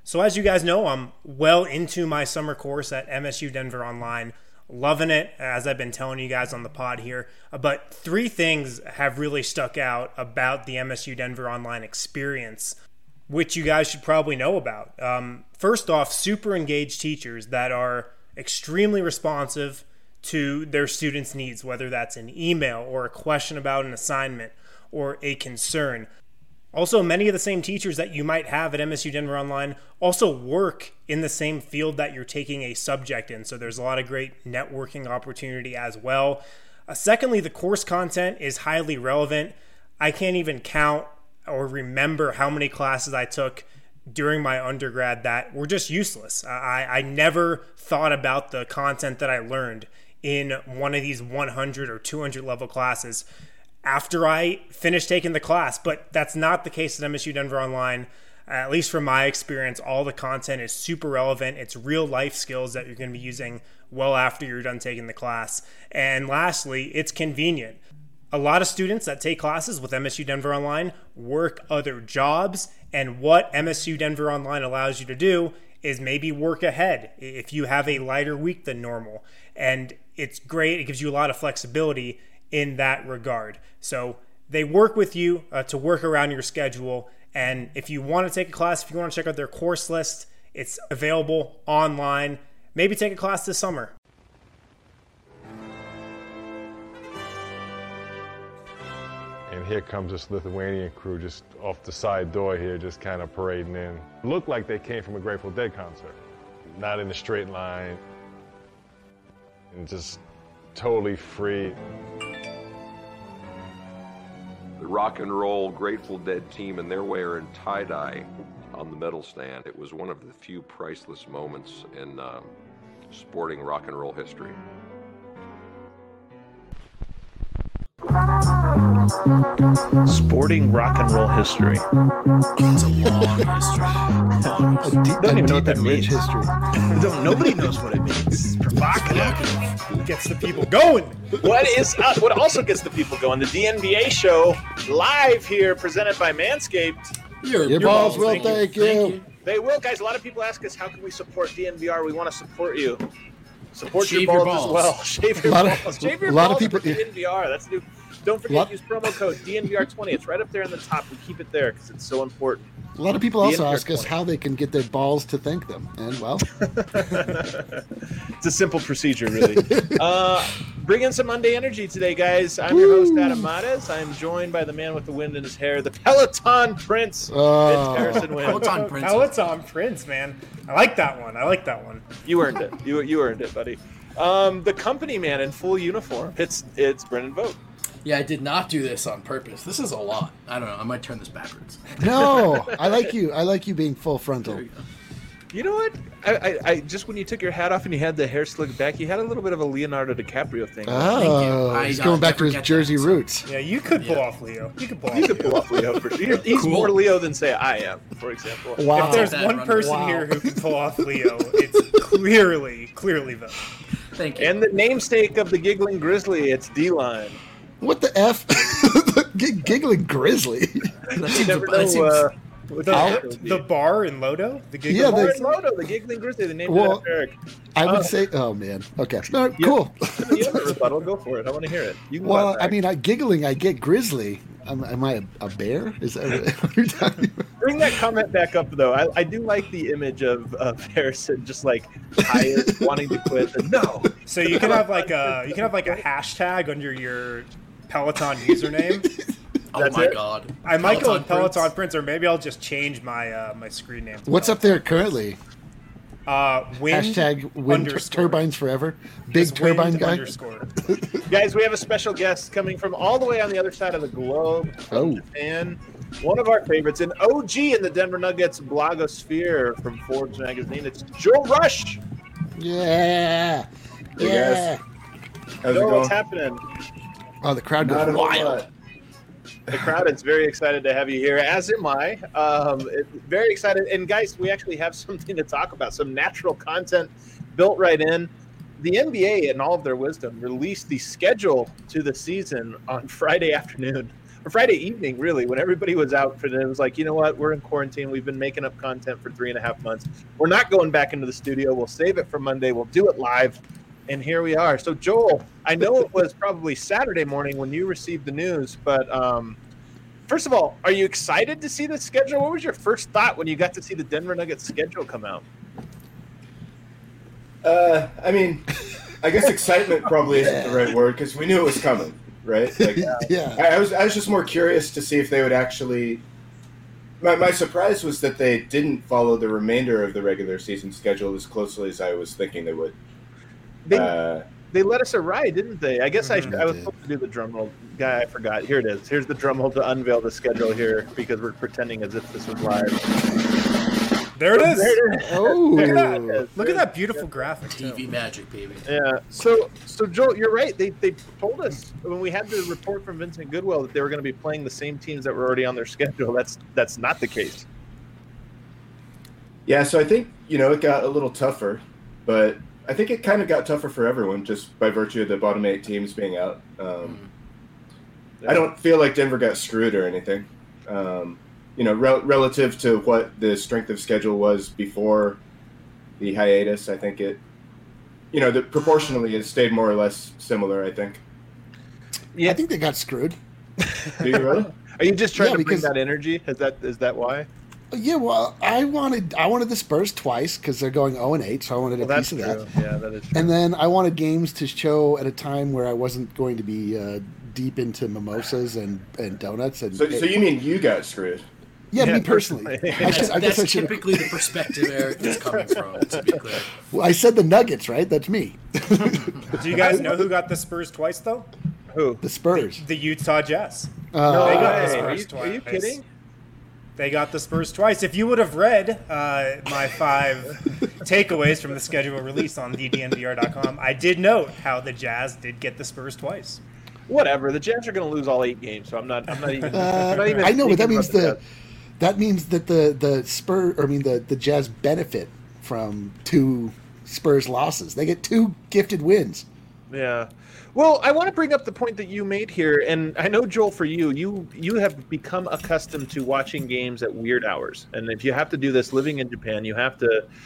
So as you guys know, I'm well into my summer course at MSU Denver Online. Loving it, as I've been telling you guys on the pod here. But 3 things have really stuck out about the MSU Denver Online experience, which you guys should probably know about. First off, super engaged teachers that are extremely responsive to their students' needs, whether that's an email or a question about an assignment or a concern. Also, many of the same teachers that you might have at MSU Denver Online also work in the same field that you're taking a subject in. So there's a lot of great networking opportunity as well. Secondly, the course content is highly relevant. I can't even count or remember how many classes I took during my undergrad that were just useless. I never thought about the content that I learned in one of these 100 or 200 level classes after I finished taking the class, but that's not the case at MSU Denver Online. At least from my experience, all the content is super relevant. It's real life skills that you're going to be using well after you're done taking the class. And lastly, it's convenient. A lot of students that take classes with MSU Denver Online work other jobs, and what MSU Denver Online allows you to do is maybe work ahead if you have a lighter week than normal. And it's great. It gives you a lot of flexibility in that regard. So they work with you to work around your schedule. And if you want to take a class, if you want to check out their course list, it's available online. Maybe take a class this summer. And here comes this Lithuanian crew just off the side door here, just kind of parading in. Looked like they came from a Grateful Dead concert. Not in a straight line. And just totally free. The rock and roll Grateful Dead team, and they're wearing tie-dye on the medal stand. It was one of the few priceless moments in sporting rock and roll history. Sporting rock and roll history. It's a long history. Don't even know what that means. History. Nobody knows what it means. It's provocative. Gets the people going. What also gets the people going? The DNVA show live here, presented by Manscaped. Your balls will thank you. They will, guys. A lot of people ask us, how can we support DNVR? We want to support you. Support Shave your your balls as balls. well. Shave your balls. Shave your balls for people- DNVR. That's new. Don't forget, use promo code DNVR20. It's right up there in the top. We keep it there because it's so important. A lot of people also DNVR ask us 20. how they can get their balls to thank them. And, well, It's a simple procedure, really. Bring in some Monday energy today, guys. I'm your host, Adam Mares. I'm joined by the man with the wind in his hair, the Peloton Prince, Vince Harrison Wynn. Peloton Prince, man. I like that one. You earned it. You earned it, buddy. The company man in full uniform. It's Brendan Vogt. Yeah, I did not do this on purpose. This is a lot. I don't know. I might turn this backwards. no, I like you. I like you being full frontal. There you go. You know what? I just when you took your hat off and you had the hair slicked back, you had a little bit of a Leonardo DiCaprio thing. Oh, he's going back to his Jersey roots. Yeah, you could pull off Leo. You could pull off Leo for sure. He's more Leo than, say, I am, for example. Wow. If there's one person here who can pull off Leo, it's clearly Vogt. Thank you. And the namesake of the Giggling Grizzly, it's D-Line. What the F? Giggling Grizzly. That seems never that know, seems- The bar in Lodo? The Giggling Yeah, Bar in Lodo, the Giggling Grizzly, the name of Eric. I would say, oh man, okay, no, cool. You have a rebuttal, go for it. I want to hear it. You can Well, go back. I mean, giggling, I get grizzly. Am I a bear? Is that what you're talking about? Bring that comment back up, though. I do like the image of Harrison just like tired, wanting to quit. And no. So you can have like a hashtag under your Peloton username. Oh That's my it? god. I might go with Prince. Peloton Prince, or maybe I'll just change my my screen name. to What's up there currently? Wind Hashtag wind underscore. turbines forever. Big Just turbine wind guy. underscore. Guys, we have a special guest coming from all the way on the other side of the globe, from Japan. One of our favorites, an OG in the Denver Nuggets blogosphere from Forbes magazine. It's Joe Rush. Yeah. Hey, Yeah. How's it going? What's happening? Oh, the crowd goes wild. The crowd is very excited to have you here, as am I. Very excited. And guys, we actually have something to talk about, some natural content built right in. The NBA, in all of their wisdom, released the schedule to the season on Friday afternoon. Friday evening, really, when everybody was out for it. It was like, you know what? We're in quarantine. We've been making up content for 3.5 months. We're not going back into the studio. We'll save it for Monday. We'll do it live. And here we are. So, Joel, I know it was probably Saturday morning when you received the news, but first of all, are you excited to see the schedule? What was your first thought when you got to see the Denver Nuggets schedule come out? I mean, I guess excitement probably isn't the right word because we knew it was coming, right? Like, Yeah. I was just more curious to see if they would actually. My surprise was that they didn't follow the remainder of the regular season schedule as closely as I was thinking they would. They let us a ride, didn't they? I guess I was supposed to do the drum roll. Guy, I forgot. Here it is. Here's the drum roll to unveil the schedule here because we're pretending as if this was live. There it is. Oh, Look at that beautiful graphic. too. TV magic, baby. Yeah. So Joel, you're right. They told us when we had the report from Vincent Goodwill that they were going to be playing the same teams that were already on their schedule. That's not the case. Yeah, so I think, it got a little tougher, but I think it kind of got tougher for everyone just by virtue of the bottom 8 teams being out. I don't feel like Denver got screwed or anything. Relative to what the strength of schedule was before the hiatus, I think it, proportionally it stayed more or less similar, I think. Yeah. I think they got screwed. Do you really? Are you just trying to bring because- that energy? Is that why? Yeah, well, I wanted the Spurs twice because they're going 0-8, so I wanted a piece of that. Yeah, that is true. And then I wanted games to show at a time where I wasn't going to be deep into mimosas and donuts. And So you mean you got screwed? yeah, me personally. That's typically the perspective Eric is coming from, to be clear. Well, I said the Nuggets, right? That's me. Do you guys know who got the Spurs twice, though? Who? The Spurs. The Utah Jazz. No They got the way. Spurs Are you twice. kidding? They got the Spurs twice. If you would have read my 5 takeaways from the schedule release on ddnvr.com, I did note how the Jazz did get the Spurs twice. Whatever. The Jazz are going to lose all 8 games, so I'm not even. I know, but that thinking means about that means that the Jazz benefit from 2 Spurs losses. They get 2 gifted wins. Yeah. Well, I want to bring up the point that you made here, and I know, Joel, for you have become accustomed to watching games at weird hours, and if you have to do this living in Japan, you have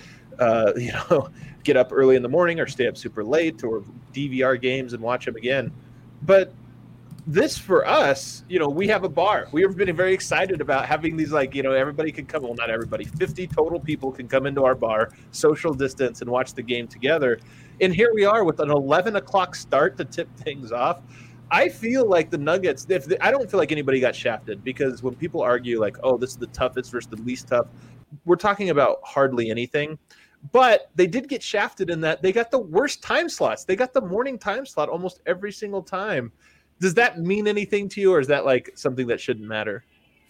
to, get up early in the morning or stay up super late or DVR games and watch them again. But this, for us, we have a bar. We have been very excited about having these, everybody can come. Well, not everybody. 50 total people can come into our bar, social distance, and watch the game together. And here we are with an 11 o'clock start to tip things off. I feel like the Nuggets, I don't feel like anybody got shafted because when people argue like, oh, this is the toughest versus the least tough, we're talking about hardly anything. But they did get shafted in that they got the worst time slots. They got the morning time slot almost every single time. Does that mean anything to you, or is that like something that shouldn't matter?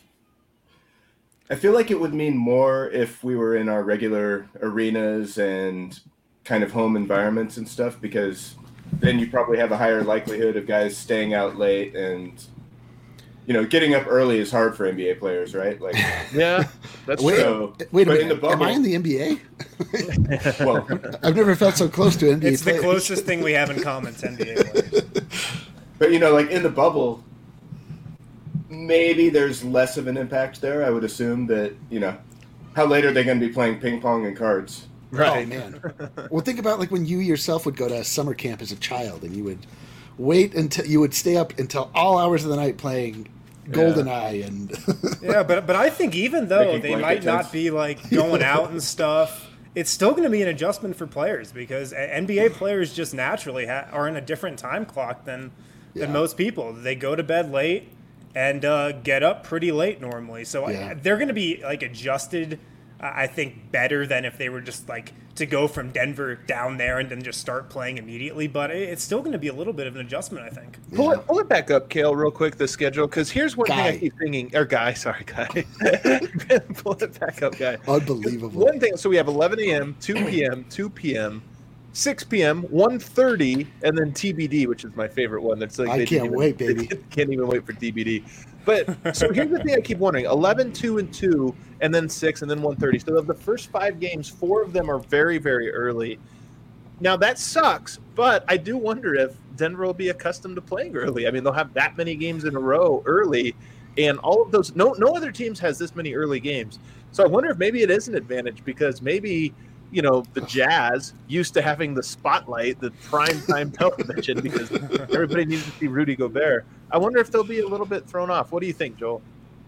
I feel like it would mean more if we were in our regular arenas and kind of home environments and stuff, because then you probably have a higher likelihood of guys staying out late and, getting up early is hard for NBA players, right? Like, Yeah, that's Wait, true. wait a but minute. in the bubble- Am I in the NBA? well, I've never felt so close to NBA It's the players. closest thing we have in common to NBA players. but like in the bubble, maybe there's less of an impact there. I would assume that, how late are they going to be playing ping pong and cards? Right. Oh man. Well, think about like when you yourself would go to summer camp as a child, and you would wait until you would stay up until all hours of the night playing GoldenEye and. Yeah, but I think even though Making they blanket might not tents. be like going out and stuff, it's still going to be an adjustment for players because NBA players just naturally are in a different time clock than most people. They go to bed late and get up pretty late normally, so Yeah. they're going to be like adjusted. I think better than if they were just like to go from Denver down there and then just start playing immediately. But it's still going to be a little bit of an adjustment, I think. Pull it back up, Kale, real quick, the schedule, because here's one thing I Guy. keep thinking. Or Guy. Pull it back up, Guy. Unbelievable. One thing, so we have 11 a.m., 2 p.m., 2 p.m., 6 p.m., 1:30, and then TBD, which is my favorite one. That's like I they didn't can't wait, baby. They can't even wait for TBD. But so here's the thing I keep wondering: 11, 2, and 2, and then 6, and then 1:30. So of the first 5 games, 4 of them are very, very early. Now that sucks, but I do wonder if Denver will be accustomed to playing early. I mean, they'll have that many games in a row early, and all of those. No other teams has this many early games. So I wonder if maybe it is an advantage because maybe the Jazz used to having the spotlight, the prime time television, because everybody needed to see Rudy Gobert. I wonder if they'll be a little bit thrown off. What do you think, Joel?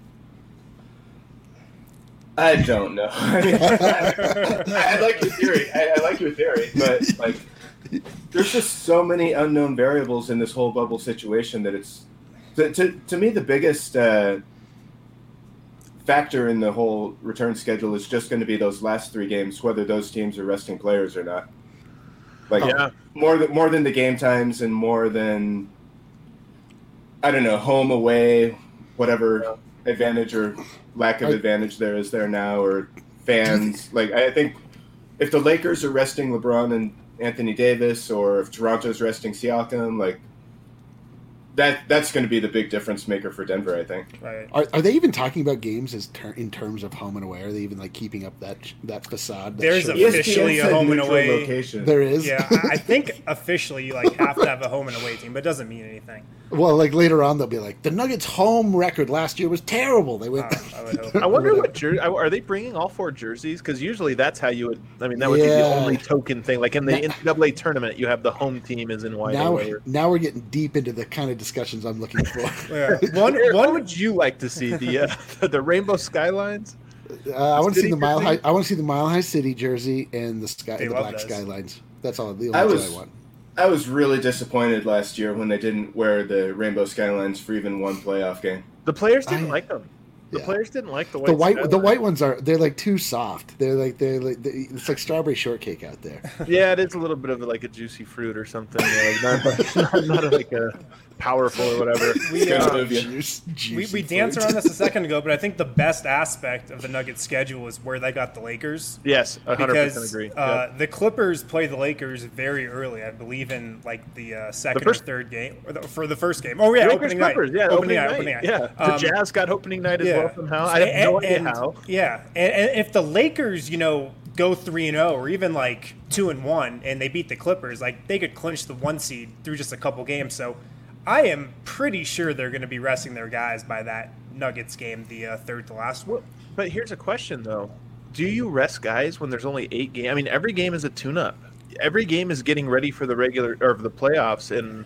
I don't know. I mean, I like your theory. I like your theory, but like, there's just so many unknown variables in this whole bubble situation that it's to me the biggest factor in the whole return schedule is just going to be those last 3 games, whether those teams are resting players or not. Like more than the game times and more than I don't know, home, away, whatever advantage or lack of advantage there is there now, or fans. Like, I think if the Lakers are resting LeBron and Anthony Davis, or if Toronto's resting Siakam, like that's going to be the big difference maker for Denver, I think. Right. Are they even talking about games in terms of home and away? Are they even like keeping up that facade? There's officially a home and away location. There is. Yeah, I think officially you like have to have a home and away team, but it doesn't mean anything. Well, like later on they'll be like the Nuggets' home record last year was terrible. They went. I would hope. I wonder what jersey are they bringing all 4 jerseys? Because usually that's how you would. I mean, that would be the only token thing. Like in the NCAA tournament, you have the home team is in white. Now we're getting deep into the kind of discussions I'm looking for. Yeah. What would you like to see the rainbow skylines? I want to see the Mile jersey? High. I want to see the Mile High City jersey and the black those. skylines. That's all. The only two I want. I was really disappointed last year when they didn't wear the rainbow skylines for even one playoff game. The players didn't like them. The players didn't like the white. The white ones they're like too soft. They're like it's like strawberry shortcake out there. Yeah, it is a little bit of like a juicy fruit or something. Not like a powerful or whatever. We danced around this a second ago, but I think the best aspect of the Nuggets schedule is where they got the Lakers. Yes, 100% because agree. The Clippers play the Lakers very early. I believe in like the second or third game for the first game. Oh yeah, Lakers, opening Clippers, night. Yeah, opening night. Yeah, the Jazz got opening night as well somehow. I have no idea how. Yeah, and if the Lakers, go 3-0 or even like 2-1, and they beat the Clippers, like they could clinch the 1 seed through just a couple games. So I am pretty sure they're going to be resting their guys by that Nuggets game, the third to last one. But here's a question though: do you rest guys when there's only 8 games? I mean, every game is a tune-up. Every game is getting ready for the regular or the playoffs, and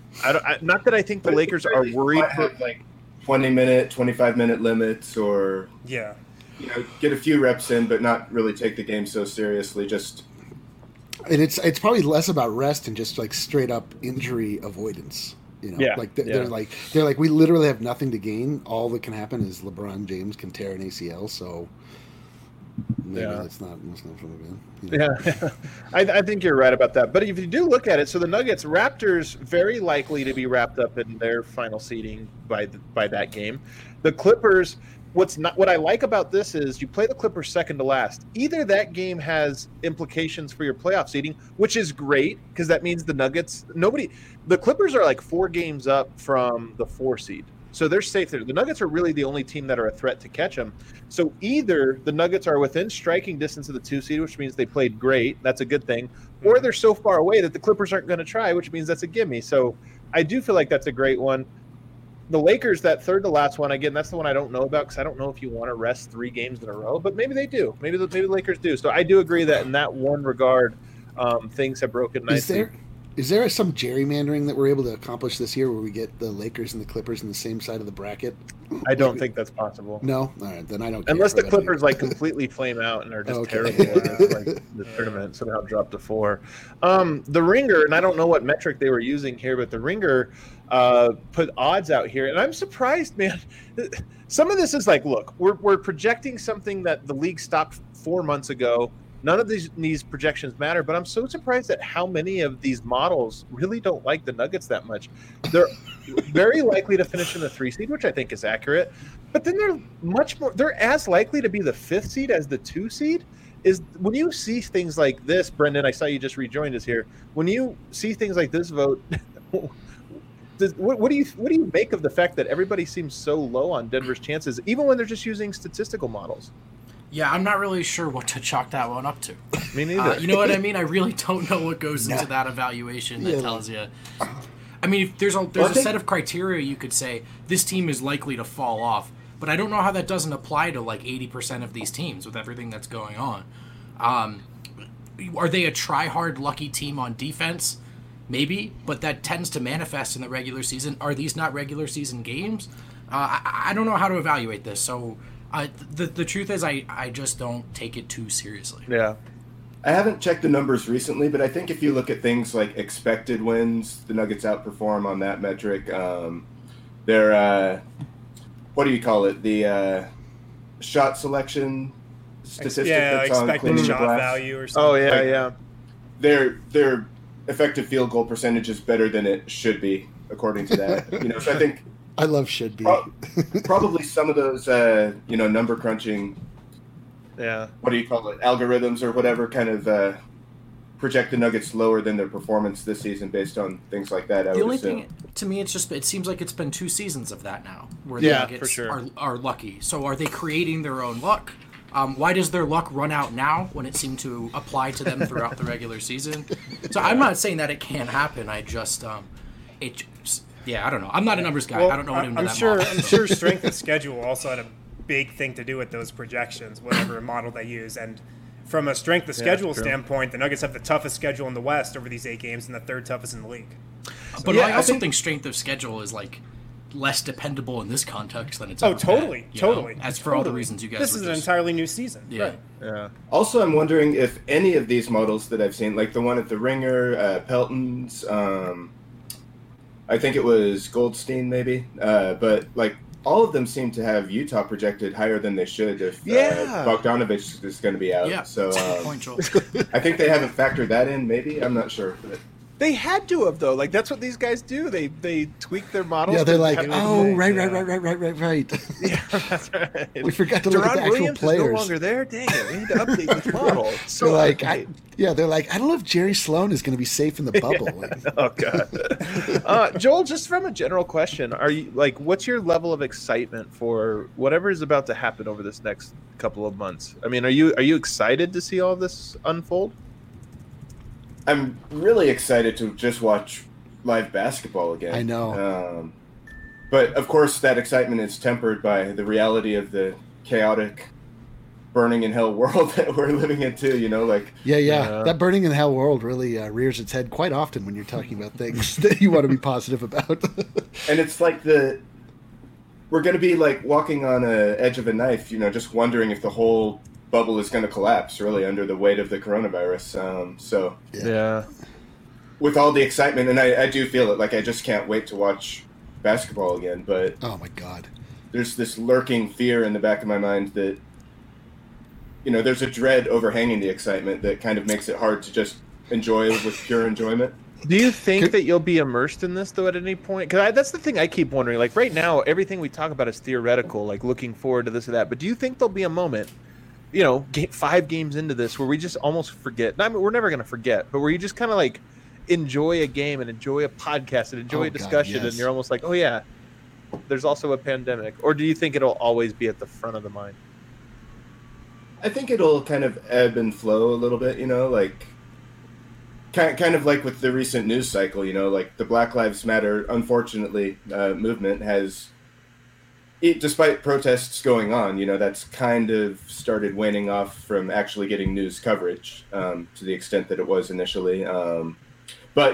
not that I think the Lakers are worried for like 20-minute, 25-minute limits, or get a few reps in, but not really take the game so seriously. Just and it's probably less about rest and just like straight up injury avoidance. They're like we literally have nothing to gain. All that can happen is LeBron James can tear an ACL. So maybe that's not fun again. Yeah, I think you're right about that. But if you do look at it, so the Nuggets, Raptors, very likely to be wrapped up in their final seeding by that game. The Clippers. What I like about this is you play the Clippers second to last. Either that game has implications for your playoff seeding, which is great because that means the Nuggets. The Clippers are like 4 games up from the 4 seed, so they're safe there. The Nuggets are really the only team that are a threat to catch them. So either the Nuggets are within striking distance of the 2 seed, which means they played great. That's a good thing, or they're so far away that the Clippers aren't going to try, which means that's a gimme. So I do feel like that's a great one. The Lakers, that third to last one, again, that's the one I don't know about because I don't know if you want to rest 3 games in a row, but maybe they do. Maybe the Lakers do. So I do agree that in that one regard, things have broken nicely. Is there some gerrymandering that we're able to accomplish this year where we get the Lakers and the Clippers on the same side of the bracket? I don't think that's possible. No? All right, then I don't care. Unless the Clippers like completely flame out and are just terrible in the tournament, somehow drop to 4. The Ringer, and I don't know what metric they were using here, but the Ringer put odds out here, and I'm surprised, man. Some of this is like, look, we're projecting something that the league stopped 4 months ago. None of these projections matter, but I'm so surprised at how many of these models really don't like the Nuggets that much. They're very likely to finish in the 3 seed, which I think is accurate, but then they're as likely to be the 5th seed as the 2 seed. Is when you see things like this, Brendan, I saw you just rejoined us here. When you see things like this vote, what do you make of the fact that everybody seems so low on Denver's chances, even when they're just using statistical models? Yeah, I'm not really sure what to chalk that one up to. Me neither. You know what I mean? I really don't know what goes into that evaluation that tells you. I mean, there's a set of criteria you could say this team is likely to fall off, but I don't know how that doesn't apply to like 80% of these teams with everything that's going on. Are they a try-hard lucky team on defense? Maybe, but that tends to manifest in the regular season. Are these not regular season games? I don't know how to evaluate this, so the truth is I just don't take it too seriously. Yeah. I haven't checked the numbers recently, but I think if you look at things like expected wins, the Nuggets outperform on that metric. Their, what do you call it? The shot selection statistic that's on expected shot value or something. Oh, yeah, Their effective field goal percentage is better than it should be, according to that. So I think I love should be. Probably some of those, number crunching. Yeah. What do you call it? Algorithms or whatever kind of project the Nuggets lower than their performance this season based on things like that. The only thing to me, it seems like it's been 2 seasons of that now, where the Nuggets for sure. are lucky. So are they creating their own luck? Why does their luck run out now when it seemed to apply to them throughout the regular season? So I'm not saying that it can't happen. I just, I don't know. I'm not a numbers guy. Well, I don't know what into that I'm model. sure strength of schedule also had a big thing to do with those projections, whatever model they use. And from a strength of schedule standpoint, the Nuggets have the toughest schedule in the West over these 8 games and the 3rd toughest in the league. So, but I also think strength of schedule is like less dependable in this context than it's ever totally. As for all the reasons you guys this is an entirely new season. Yeah. Right. Yeah. Also, I'm wondering if any of these models that I've seen, like the one at the Ringer, Pelton's, I think it was Goldstein maybe, but like all of them seem to have Utah projected higher than they should if Bogdanovich is going to be out. Yeah, so point, Joel. I think they haven't factored that in. Maybe I'm not sure. But They had to have, though. Like, that's what these guys do. They tweak their models. Yeah, they're like, right. Yeah, that's right. We forgot to look at the actual Williams players. Is no longer there. Dang it, we need to update this model. So they're like, they're like, I don't know if Jerry Sloan is going to be safe in the bubble. Oh God, Joel. Just from a general question, are you like, what's your level of excitement for whatever is about to happen over this next couple of months? I mean, are you excited to see all this unfold? I'm really excited to just watch live basketball again. I know. But, of course, that excitement is tempered by the reality of the chaotic, burning in hell world that we're living in, too, Yeah. That burning in hell world really rears its head quite often when you're talking about things that you want to be positive about. And it's like we're going to be, like, walking on an edge of a knife, just wondering if the whole bubble is going to collapse really under the weight of the coronavirus. Yeah, with all the excitement, and I do feel it, like I just can't wait to watch basketball again, but oh my God, there's this lurking fear in the back of my mind that there's a dread overhanging the excitement that kind of makes it hard to just enjoy with pure enjoyment. Do you think that you'll be immersed in this, though, at any point? Because that's the thing I keep wondering. Like, right now, everything we talk about is theoretical, like looking forward to this or that. But do you think there'll be a moment, 5 games into this, where we just almost forget? I mean, we're never going to forget, but where you just kind of like enjoy a game and enjoy a podcast and enjoy a discussion, and you're almost like, oh, yeah, there's also a pandemic. Or do you think it'll always be at the front of the mind? I think it'll kind of ebb and flow a little bit, like kind of like with the recent news cycle, like the Black Lives Matter, unfortunately, movement has, despite protests going on, that's kind of started waning off from actually getting news coverage to the extent that it was initially. But,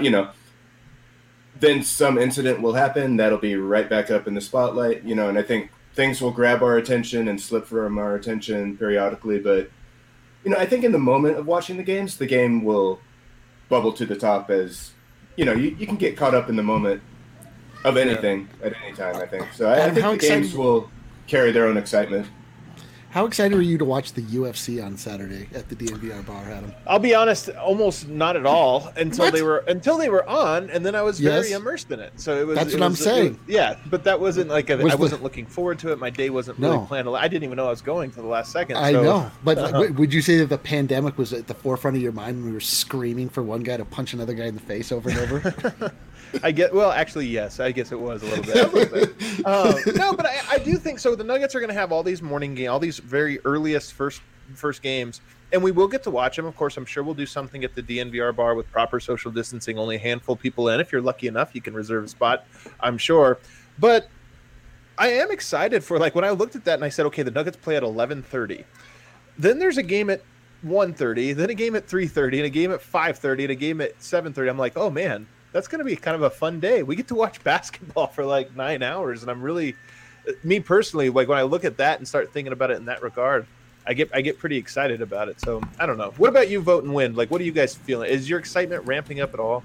then some incident will happen that'll be right back up in the spotlight, and I think things will grab our attention and slip from our attention periodically. But, I think in the moment of watching the games, the game will bubble to the top as, you can get caught up in the moment of anything at any time, I think. So I think the games will carry their own excitement. How excited were you to watch the UFC on Saturday at the DNVR bar, Adam? I'll be honest, almost not at all until they were on, and then I was very immersed in it. So it was. That's what I'm saying. But that wasn't like I wasn't looking forward to it. My day wasn't really planned. I didn't even know I was going to the last second. I know, but would you say that the pandemic was at the forefront of your mind when we were screaming for one guy to punch another guy in the face over and over? Actually, yes. I guess it was a little bit. No, but I do think so. The Nuggets are going to have all these morning games, all these very earliest first games, and we will get to watch them. Of course, I'm sure we'll do something at the DNVR bar with proper social distancing, only a handful of people in. If you're lucky enough, you can reserve a spot, I'm sure. But I am excited for, like, when I looked at that and I said, okay, the Nuggets play at 11:30. Then there's a game at 1:30, then a game at 3:30, and a game at 5:30, and a game at 7:30. I'm like, oh man, that's going to be kind of a fun day. We get to watch basketball for like 9 hours, and I'm really, me personally, like when I look at that and start thinking about it in that regard, I get pretty excited about it. So I don't know. What about you, Vote and Win? Like, what are you guys feeling? Is your excitement ramping up at all?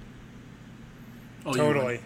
Oh, totally.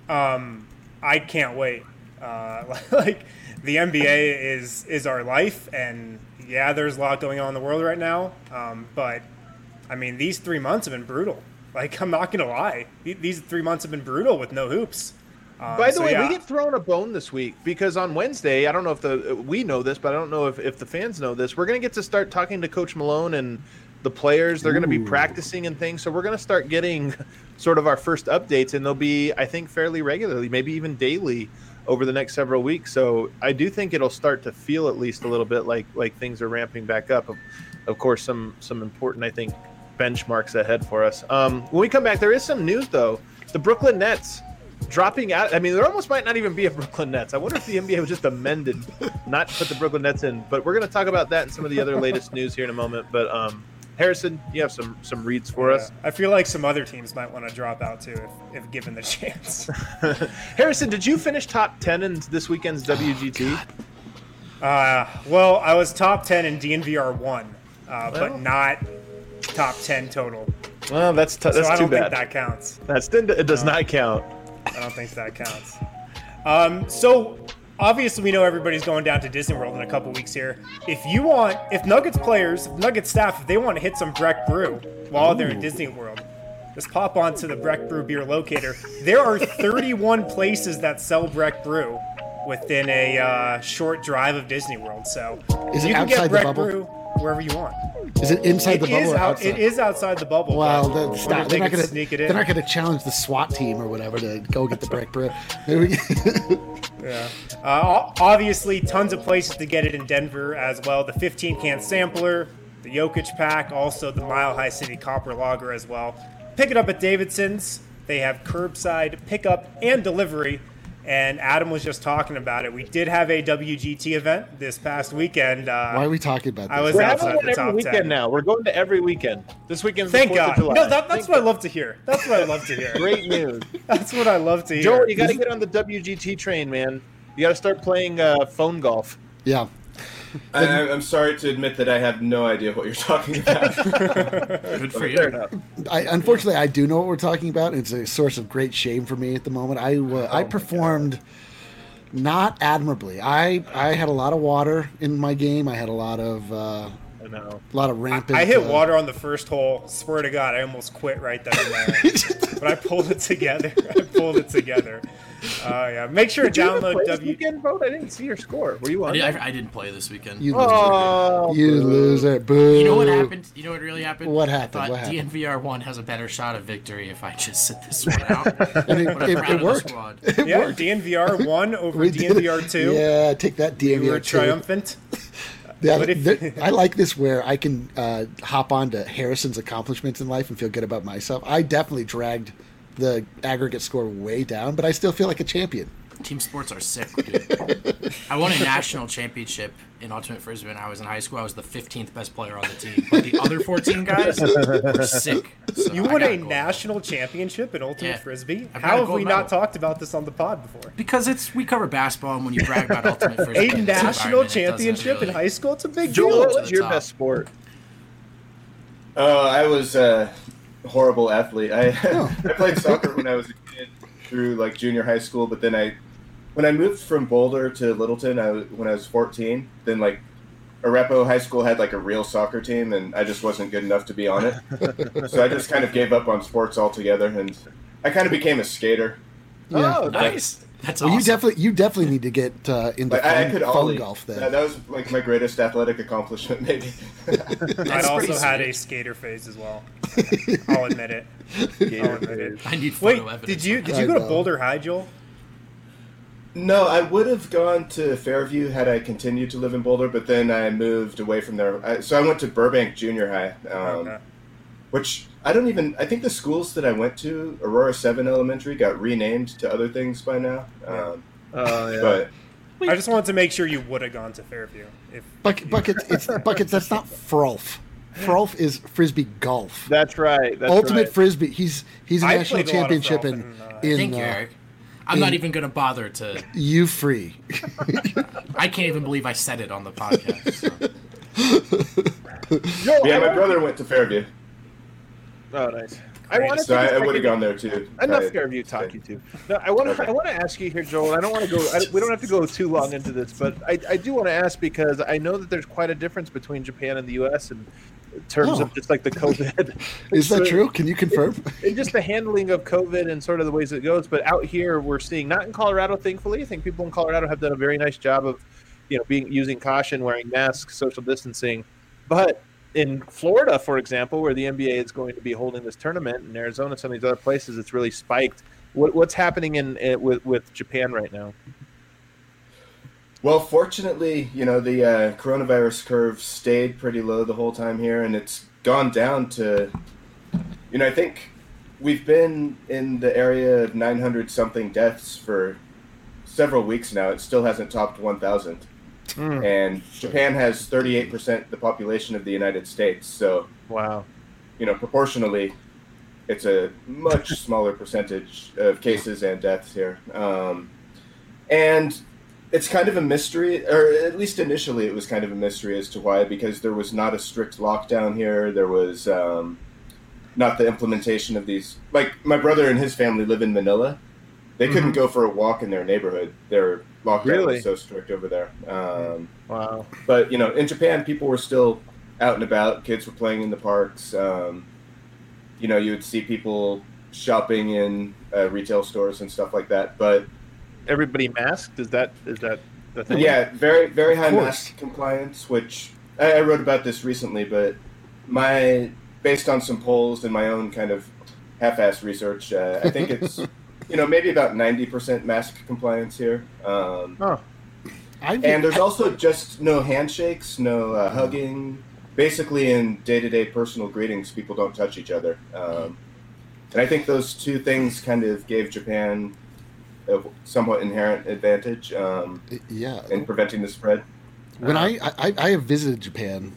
I can't wait. Like the NBA is our life, and yeah, there's a lot going on in the world right now. But I mean, these 3 months have been brutal. Like, I'm not gonna lie, these 3 months have been brutal with no hoops. By the way, we get thrown a bone this week because on Wednesday, I don't know if we know this, but I don't know if the fans know this. We're going to get to start talking to Coach Malone and the players. They're going to be practicing and things. So we're going to start getting sort of our first updates, and they'll be, I think, fairly regularly, maybe even daily over the next several weeks. So I do think it'll start to feel at least a little bit like things are ramping back up. Of course, some important, I think, benchmarks ahead for us. When we come back, there is some news, though. The Brooklyn Nets dropping out. I mean, there almost might not even be a Brooklyn Nets. I wonder if the NBA was just amended not to put the Brooklyn Nets in. But we're going to talk about that and some of the other latest news here in a moment. But Harrison, you have some reads for us. I feel like some other teams might want to drop out too if given the chance. Harrison, did you finish top 10 in this weekend's WGT? Well, I was top 10 in DNVR 1, but not top 10 total. Well, that's too bad. I don't think that counts. It does not count. I don't think that counts. So obviously we know everybody's going down to Disney World in a couple weeks here. If Nuggets players, Nuggets staff, if they want to hit some Breck Brew while they're in Disney World, just pop onto the Breck Brew beer locator. There are 31 places that sell Breck Brew within a short drive of Disney World. So you can get Breck Brew wherever you want. Is it inside the bubble or outside? It is outside the bubble. Well, they're not going to challenge the SWAT team or whatever to go get the Breck Brew. Yeah. Obviously, tons of places to get it in Denver as well. The 15-can sampler, the Jokic pack, also the Mile High City Copper Lager as well. Pick it up at Davidson's. They have curbside pickup and delivery. And Adam was just talking about it. We did have a WGT event this past weekend. Why are we talking about this? I was We're outside having the top every weekend 10. now. We're going to every weekend. This weekend's Thank the 4th God. of July. No, that's what I love to hear. That's what I love to hear. Great news. That's what I love to hear. Joel, you got to get on the WGT train, man. You got to start playing phone golf. Yeah. I'm sorry to admit that I have no idea what you're talking about. Good for you. Unfortunately, I do know what we're talking about. It's a source of great shame for me at the moment. I performed not admirably. I had a lot of water in my game. I had a lot of rampant. I hit water on the first hole. Swear to God, I almost quit right then and there. But I pulled it together. Yeah. Make sure to download Weekend vote. I didn't see your score. Were you on? I didn't play this weekend. You loser. Boo. You know what happened? You know what really happened? What happened? I thought What happened? DNVR 1 has a better shot of victory if I just sit this one out. And it worked. Yeah, DNVR 1 over DNVR 2. Yeah, take that DNVR 2. We were triumphant. Yeah, I like this where I can hop on to Harrison's accomplishments in life and feel good about myself. I definitely dragged the aggregate score way down, but I still feel like a champion. Team sports are sick, dude. I won a national championship in Ultimate Frisbee when I was in high school. I was the 15th best player on the team. But the other 14 guys were sick. So you won a national championship in Ultimate Frisbee? How have we not talked about this on the pod before? Because we cover basketball, and when you brag about Ultimate Frisbee, a national championship in high school? It's a big deal. Joel, what's your best sport? I was a horrible athlete. I played soccer when I was a kid through like junior high school, but then when I moved from Boulder to Littleton, when I was 14, then like Arepo High School had like a real soccer team, and I just wasn't good enough to be on it. So I just kind of gave up on sports altogether, and I kind of became a skater. Yeah. Oh, nice. That's well, awesome. You definitely need to get into phone golf then. That was like my greatest athletic accomplishment, maybe. I also had a skater phase as well. I'll admit it. I need photo evidence. Did you go to Boulder High, Joel? No, I would have gone to Fairview had I continued to live in Boulder, but then I moved away from there. So I went to Burbank Junior High, which I think the schools that I went to, Aurora 7 Elementary, got renamed to other things by now. But I just wanted to make sure you would have gone to Fairview. Buckets, that's not Frolf. Frolf is Frisbee golf. That's right. Ultimate Frisbee. He's a national championship in thank you, Eric. I'm not even going to bother to. You free. I can't even believe I said it on the podcast. So. My brother went to Fairview. Oh, nice. I would have gone there too. Enough Fairview talk, you two. No, I want to ask you here, Joel. I don't want to go. We don't have to go too long into this, but I do want to ask because I know that there's quite a difference between Japan and the U.S. in terms of just like the COVID. Is that true? Can you confirm? And just the handling of COVID and sort of the ways it goes. But out here, we're seeing, not in Colorado, thankfully. I think people in Colorado have done a very nice job of, using caution, wearing masks, social distancing. But in Florida, for example, where the NBA is going to be holding this tournament, in Arizona, some of these other places, it's really spiked. What's happening with Japan right now? Well, fortunately, the coronavirus curve stayed pretty low the whole time here, and it's gone down to, I think we've been in the area of 900-something deaths for several weeks now. It still hasn't topped 1,000. And Japan has 38% the population of the United States. So, wow, proportionally, it's a much smaller percentage of cases and deaths here. And it's kind of a mystery, or at least initially it was kind of a mystery as to why, because there was not a strict lockdown here. There was not the implementation of these. Like, my brother and his family live in Manila. They couldn't go for a walk in their neighborhood. Their lockdown was so strict over there. Wow. But, in Japan, people were still out and about. Kids were playing in the parks. You would see people shopping in retail stores and stuff like that. But everybody masked? Is that the thing? Yeah, very, very high mask compliance, which I wrote about this recently, but based on some polls and my own kind of half-assed research, I think it's, maybe about 90% mask compliance here. And there's also just no handshakes, no hugging. Basically, in day-to-day personal greetings, people don't touch each other. And I think those two things kind of gave Japan a somewhat inherent advantage in preventing the spread. When I have visited Japan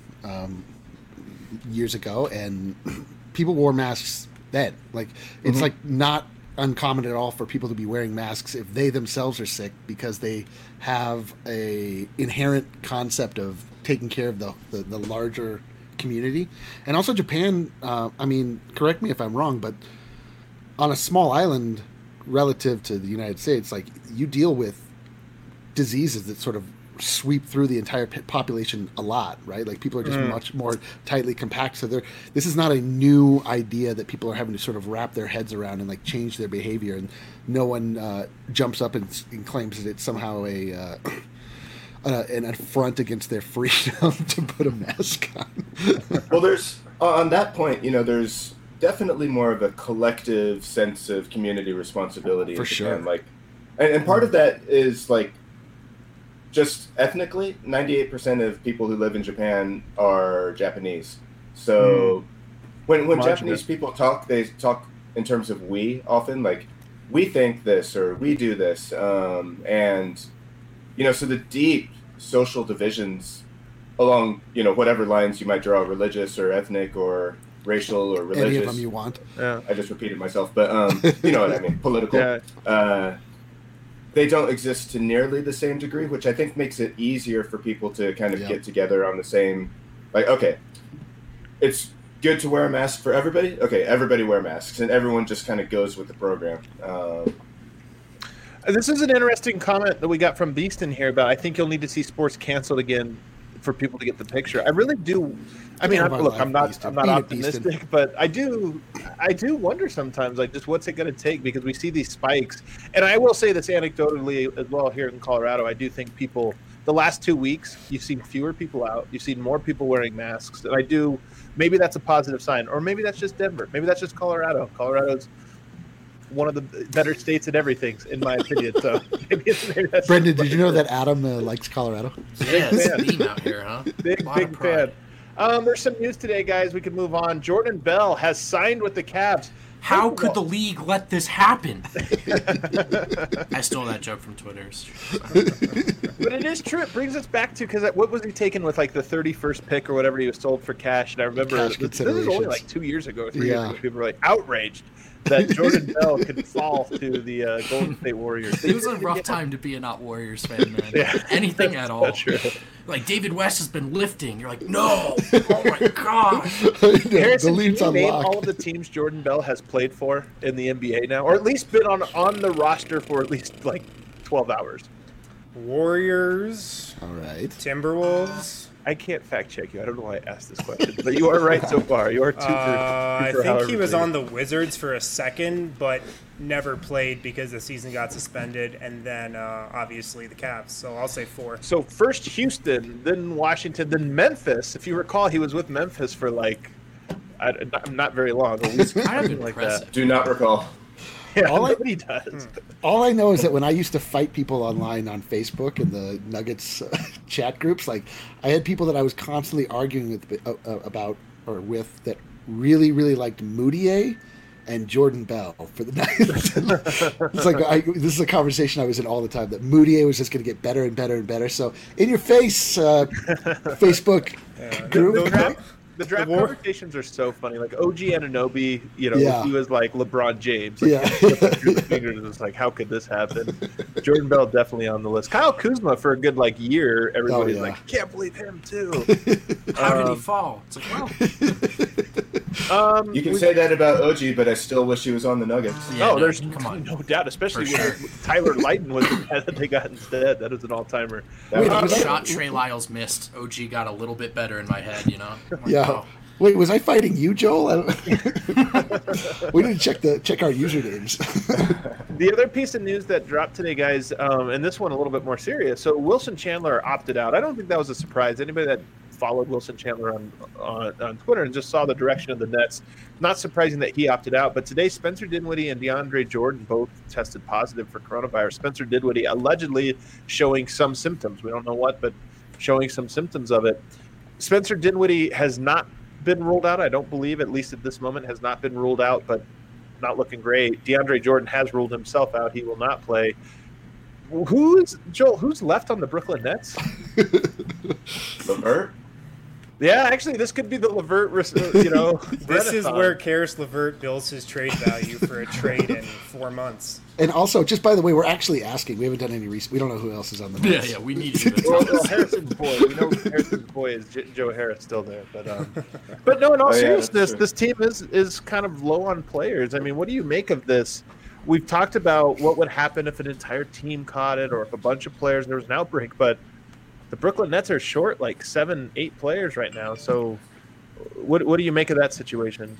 years ago, and people wore masks then. Like, it's like not uncommon at all for people to be wearing masks if they themselves are sick, because they have a inherent concept of taking care of the larger community. And also Japan, correct me if I'm wrong, but on a small island relative to the United States, like, you deal with diseases that sort of sweep through the entire population a lot, right? Like, people are just much more tightly compact. So this is not a new idea that people are having to sort of wrap their heads around and like change their behavior. And no one jumps up and claims that it's somehow an affront against their freedom to put a mask on. Well, there's on that point, there's definitely more of a collective sense of community responsibility for sure. Like, and part of that is like, just ethnically, 98% of people who live in Japan are Japanese. So when Japanese people talk, they talk in terms of we often, like, we think this or we do this. And, so the deep social divisions along, whatever lines you might draw, religious or ethnic or racial or religious. Any of them you want. Yeah. I just repeated myself, but you know what I mean, political. Yeah. They don't exist to nearly the same degree, which I think makes it easier for people to kind of get together on the same, like, okay, it's good to wear a mask for everybody. Okay, everybody wear masks, and everyone just kind of goes with the program. This is an interesting comment that we got from Beeston here about, I think you'll need to see sports canceled again for people to get the picture. I really do. I mean, I'm not optimistic, but I do wonder sometimes, like, just what's it going to take, because we see these spikes. And I will say this anecdotally as well here in Colorado. I do think people, the last 2 weeks, you've seen fewer people out. You've seen more people wearing masks. And maybe that's a positive sign, or maybe that's just Denver. Maybe that's just Colorado. Colorado's one of the better states in everything, in my opinion. So, maybe that's Brendan, did you know that Adam likes Colorado? Yeah, it's a theme out here, huh? Big fan. There's some news today, guys. We can move on. Jordan Bell has signed with the Cavs. How could the league let this happen? I stole that joke from Twitter. But it is true. It brings us back to, because what was he taken with, like the 31st pick or whatever he was sold for cash? And I remember this is only like 2 years ago or 3 years ago. People were like outraged that Jordan Bell could fall to the Golden State Warriors. It was a rough time to be a not Warriors fan, man. Yeah, anything at all. That's true. Like David West has been lifting. You're like, no! Oh my god! Harrison, can you name all of the teams Jordan Bell has played for in the NBA now, or at least been on the roster for at least like 12 hours? Warriors. All right. Timberwolves. I can't fact check you. I don't know why I asked this question, but you are right so far. You are two for I think he was on the Wizards for a second, but never played because the season got suspended, and then obviously the Cavs. So I'll say 4. So first Houston, then Washington, then Memphis. If you recall, he was with Memphis for like not very long. At least kind of like that. Do not recall. Yeah, nobody does. All I know is that when I used to fight people online on Facebook and the Nuggets chat groups, like I had people that I was constantly arguing with that really, really liked Moutier and Jordan Bell for the Nuggets. It's like this is a conversation I was in all the time, that Moutier was just going to get better and better and better. So in your face, Facebook group. The draft conversations are so funny. Like OG Anunoby, he was like LeBron James. Like, through the fingers, it was like, how could this happen? Jordan Bell definitely on the list. Kyle Kuzma for a good year. Everybody's like, can't believe him too. How did he fall? It's like, well, you can say that about OG, but I still wish he was on the Nuggets. Yeah, there's no doubt, especially when Tyler Lydon was the guy that they got instead. That is an all-timer. The shot Trey Lyles missed, OG got a little bit better in my head, Yeah. Wait, was I fighting you, Joel? We need to check our usernames. The other piece of news that dropped today, guys, and this one a little bit more serious. So Wilson Chandler opted out. I don't think that was a surprise. Anybody that followed Wilson Chandler on Twitter and just saw the direction of the Nets, not surprising that he opted out. But today, Spencer Dinwiddie and DeAndre Jordan both tested positive for coronavirus. Spencer Dinwiddie allegedly showing some symptoms. We don't know what, but showing some symptoms of it. Spencer Dinwiddie has not been ruled out. I don't believe, at least at this moment, has not been ruled out, but not looking great. DeAndre Jordan has ruled himself out. He will not play. Who's left on the Brooklyn Nets? LeVert? Yeah, actually, this could be the LeVert, This is where Karis LeVert builds his trade value for a trade in 4 months. And also, just by the way, we're actually asking. We haven't done any research. We don't know who else is on the Nets. Yeah, we need you. Well, Harrison's boy. We know Harrison's boy is Joe Harris still there, but no. In all seriousness, this team is kind of low on players. I mean, what do you make of this? We've talked about what would happen if an entire team caught it, or if a bunch of players there was an outbreak, but the Brooklyn Nets are short like 7-8 players right now. So, what do you make of that situation?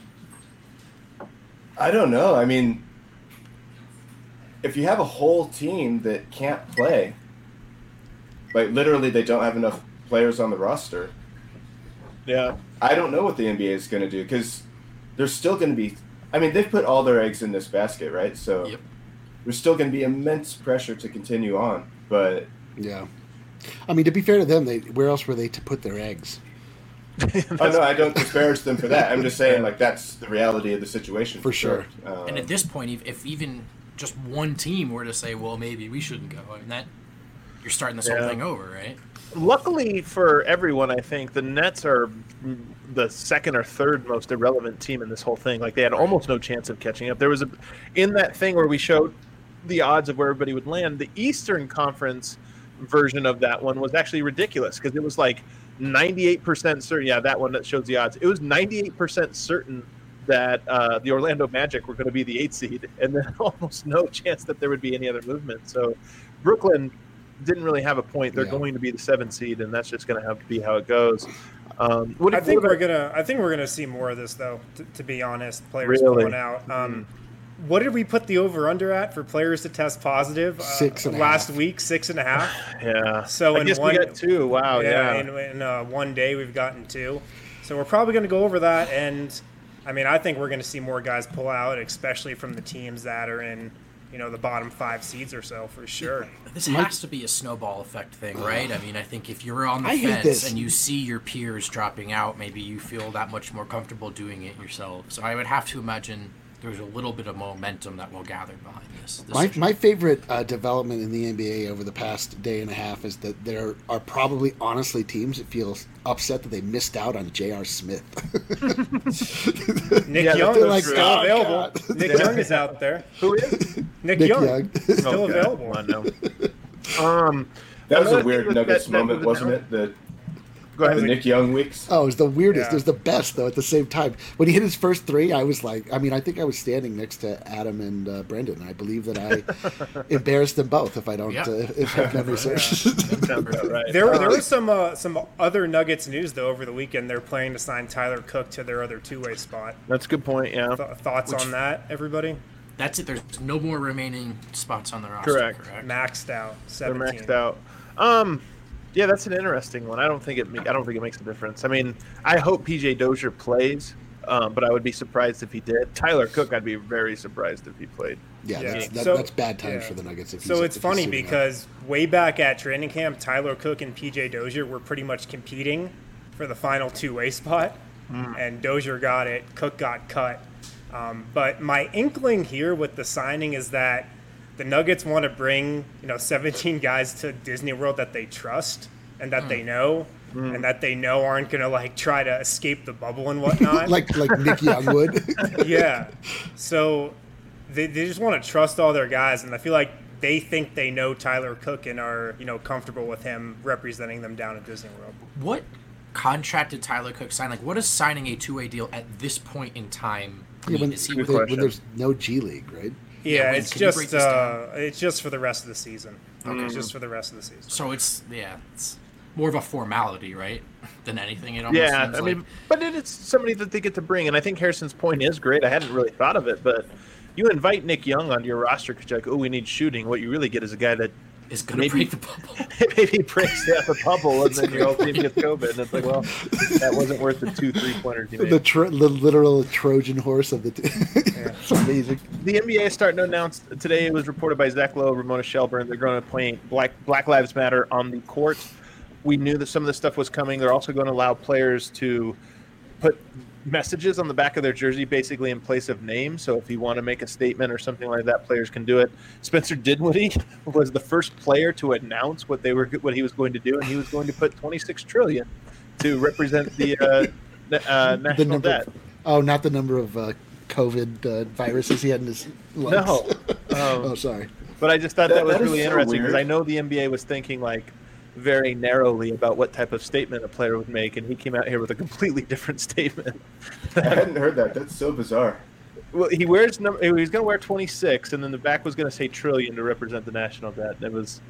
I don't know. I mean, if you have a whole team that can't play, like literally they don't have enough players on the roster. Yeah. I don't know what the NBA is going to do, because there's still going to be, I mean, they've put all their eggs in this basket, right? So there's still going to be immense pressure to continue on. But yeah. I mean, to be fair to them, where else were they to put their eggs? Oh, no, I don't disparage them for that. I'm just saying, like, that's the reality of the situation. For sure. And at this point, if even just one team were to say, well, maybe we shouldn't go, I mean, you're starting this whole thing over, right? Luckily for everyone, I think the Nets are the second or third most irrelevant team in this whole thing. Like, they had almost no chance of catching up. There was in that thing where we showed the odds of where everybody would land, the Eastern Conference version of that one was actually ridiculous, because it was like 98% certain. Yeah, that one that shows the odds. It was 98% certain that the Orlando Magic were going to be the 8th seed, and then almost no chance that there would be any other movement. So Brooklyn didn't really have a point. They're going to be the 7th seed, and that's just going to have to be how it goes. I think we're gonna see more of this, though. To be honest, players pulling out. What did we put the over/under at for players to test positive? 6.5. Last week, 6.5. Yeah. So I guess we got 2. Wow. Yeah. In one day, we've gotten 2. So we're probably going to go over that. And I mean, I think we're going to see more guys pull out, especially from the teams that are in, the bottom 5 seeds or so, for sure. This has to be a snowball effect thing, right? I mean, I think if you're on the fence and you see your peers dropping out, maybe you feel that much more comfortable doing it yourself. So I would have to imagine there's a little bit of momentum that will gather behind this. My favorite development in the NBA over the past day and a half is that there are probably, honestly, teams that feel upset that they missed out on J.R. Smith. Nick Young is still available. Nick Young is out there. Who is? Nick Young. Still available. I know. That was a weird Nuggets moment, wasn't it? The Nick Young weeks. Oh, it was the weirdest. It was the best, though, at the same time. When he hit his first 3, I was like, I think I was standing next to Adam and Brendan. I believe that I embarrassed them both, if I don't, if memory serves. Right. There was some other Nuggets news, though, over the weekend. They're planning to sign Tyler Cook to their other two-way spot. That's a good point, yeah. Thoughts on that, everybody? That's it. There's no more remaining spots on the roster. Correct. Maxed out. 17. They're maxed out. Yeah, that's an interesting one. I don't think it makes a difference. I mean, I hope PJ Dozier plays, but I would be surprised if he did. Tyler Cook, I'd be very surprised if he played. Yeah. That's bad times for the Nuggets. So it's funny because way back at training camp, Tyler Cook and PJ Dozier were pretty much competing for the final two-way spot, and Dozier got it. Cook got cut. But my inkling here with the signing is that the Nuggets want to bring, 17 guys to Disney World that they trust and that they know, and that they know aren't going to try to escape the bubble and whatnot. like Nick Young would. Yeah. So they just want to trust all their guys, and I feel like they think they know Tyler Cook and are, comfortable with him representing them down at Disney World. What contract did Tyler Cook sign? What is signing a two-way deal at this point in time? When there's no G League, right? Yeah, it's just for the rest of the season. Okay, it's just for the rest of the season. So it's more of a formality, right, than anything. It almost seems I mean, but it's somebody that they get to bring, and I think Harrison's point is great. I hadn't really thought of it, but you invite Nick Young onto your roster because you're like, oh, we need shooting. What you really get is a guy that is going to break the bubble. Maybe breaks the bubble, and then your whole team gets COVID. And it's like, well, that wasn't worth the 2 3-pointers you made. The literal Trojan horse of the team. It's amazing. The NBA is starting to announce today. It was reported by Zach Lowe, Ramona Shelburne. They're going to play Black Lives Matter on the court. We knew that some of this stuff was coming. They're also going to allow players to put messages on the back of their jersey, basically in place of names. So if you want to make a statement or something like that, players can do it. Spencer Dinwiddie was the first player to announce what he was going to do, and he was going to put $26 trillion to represent the national debt. Not the number of COVID viruses he had in his lungs. No. Sorry. But I just thought that was really interesting because I know the NBA was thinking very narrowly about what type of statement a player would make, and he came out here with a completely different statement. I hadn't heard that. That's so bizarre. Well, he was going to wear 26, and then the back was going to say trillion to represent the national debt. And it was.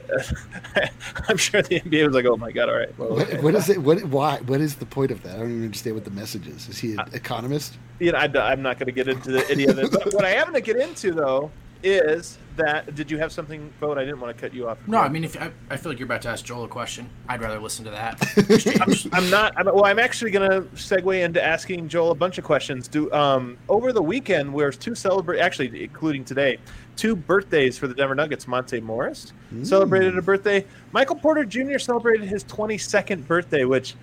I'm sure the NBA was like, "Oh my god! All right." Well, what is it? Why? What is the point of that? I don't even understand what the message is. Is he an economist? I'm not going to get into any of it. But what I am going to get into though is that. Did you have something, Bo? I didn't want to cut you off. No, I mean, I feel like you're about to ask Joel a question. I'd rather listen to that. I'm not. I'm actually going to segue into asking Joel a bunch of questions. Over the weekend, there's actually including today, 2 birthdays for the Denver Nuggets. Monte Morris celebrated a birthday. Michael Porter Jr. celebrated his 22nd birthday, which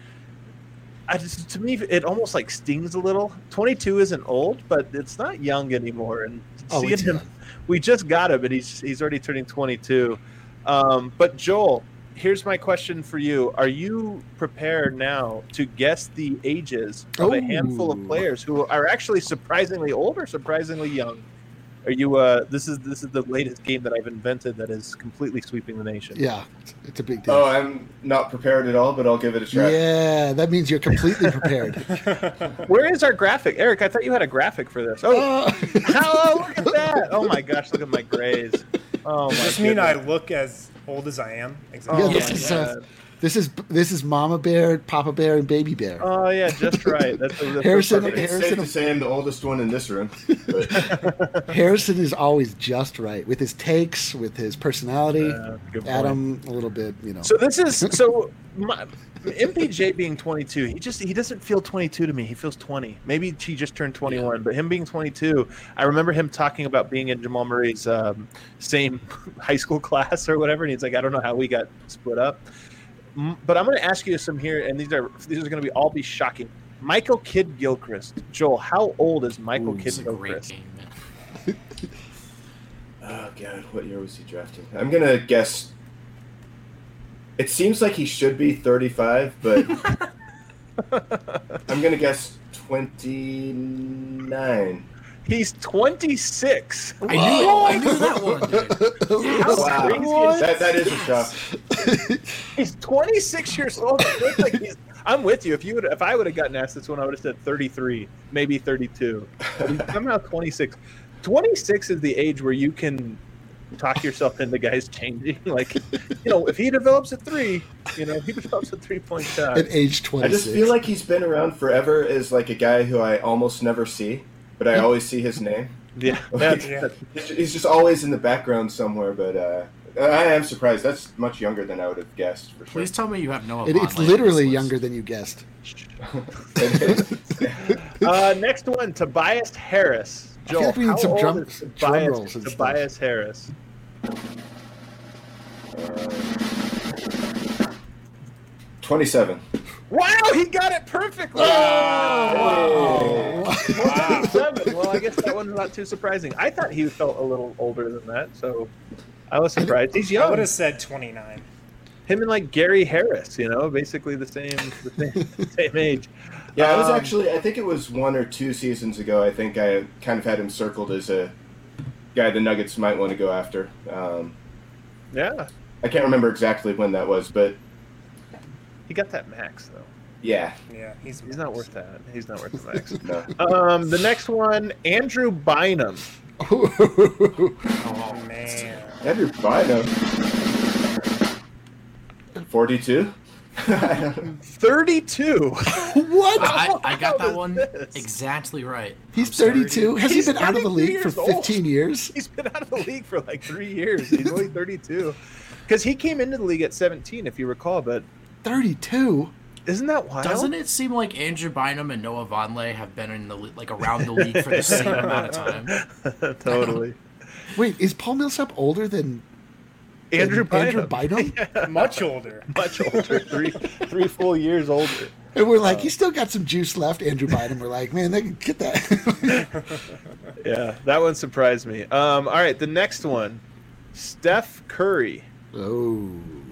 to me it almost stings a little. 22 isn't old, but it's not young anymore. And seeing him. We just got him, and he's already turning 22. But Joel, here's my question for you: are you prepared now to guess the ages of a handful of players who are actually surprisingly old or surprisingly young? Are you? This is the latest game that I've invented that is completely sweeping the nation. Yeah, it's a big deal. Oh, I'm not prepared at all, but I'll give it a try. Yeah, that means you're completely prepared. Where is our graphic, Eric? I thought you had a graphic for this. Oh, look at that! Oh my gosh, look at my grades. Oh my. Does this mean I look as old as I am? Exactly. Yeah, This is Mama Bear, Papa Bear, and Baby Bear. Oh yeah, just right. That's Harrison. It's safe to say I'm the oldest one in this room. But. Harrison is always just right with his takes, with his personality. Adam, a little bit, So this is MPJ being 22. He doesn't feel 22 to me. He feels 20. Maybe he just turned 21, but him being 22, I remember him talking about being in Jamal Murray's same high school class or whatever, and he's like, I don't know how we got split up. But I'm going to ask you some here, and these are going to all be shocking. Michael Kidd Gilchrist. Joel, how old is Michael Kidd Gilchrist? Oh God, what year was he drafted? I'm going to guess. It seems like he should be 35, but I'm going to guess 29. He's 26. I knew that one. Wow. That is a shock. He's 26 years old. I'm with you. If I would have gotten asked this one, I would have said 33, maybe 32. But he's somehow 26. 26 is the age where you can talk yourself into guys changing. Like, if he develops a 3, he develops a 3-point shot. At age 26. I just feel like he's been around forever as like a guy who I almost never see, but I always see his name. Yeah. He's just always in the background somewhere, but I am surprised. That's much younger than I would have guessed, for sure. Please tell me you have Noah. It's literally younger than you guessed. Next one, Tobias Harris. Joel, I feel like we need some drum rolls. Tobias Harris. 27. Wow, he got it perfectly. Oh! Wow. 27. Well, I guess that one's not too surprising. I thought he felt a little older than that, so I was surprised. He's young. I would have said 29. Him and like Gary Harris, basically the same age. Yeah, I was I think it was 1 or 2 seasons ago. I think I kind of had him circled as a guy the Nuggets might want to go after. Yeah. I can't remember exactly when that was, but he got that max though. Yeah. Yeah, he's not worth that. He's not worth the max. No. The next one, Andrew Bynum. Oh man. Andrew Bynum. 42? 32. What? I got that one exactly right. He's 32. Has he been out of the league for 15 years? He's been out of the league for like 3 years. He's only 32. Because he came into the league at 17, if you recall, but 32? Isn't that wild? Doesn't it seem like Andrew Bynum and Noah Vonleh have been in the around the league for the same amount of time? Totally. Wait, is Paul Millsap older than Andrew Bynum? Yeah. Much older. Much older. Three full years older. And we're like, he's still got some juice left, Andrew Bynum. We're like, man, they can get that. Yeah, that one surprised me. All right, the next one, Steph Curry. Oh.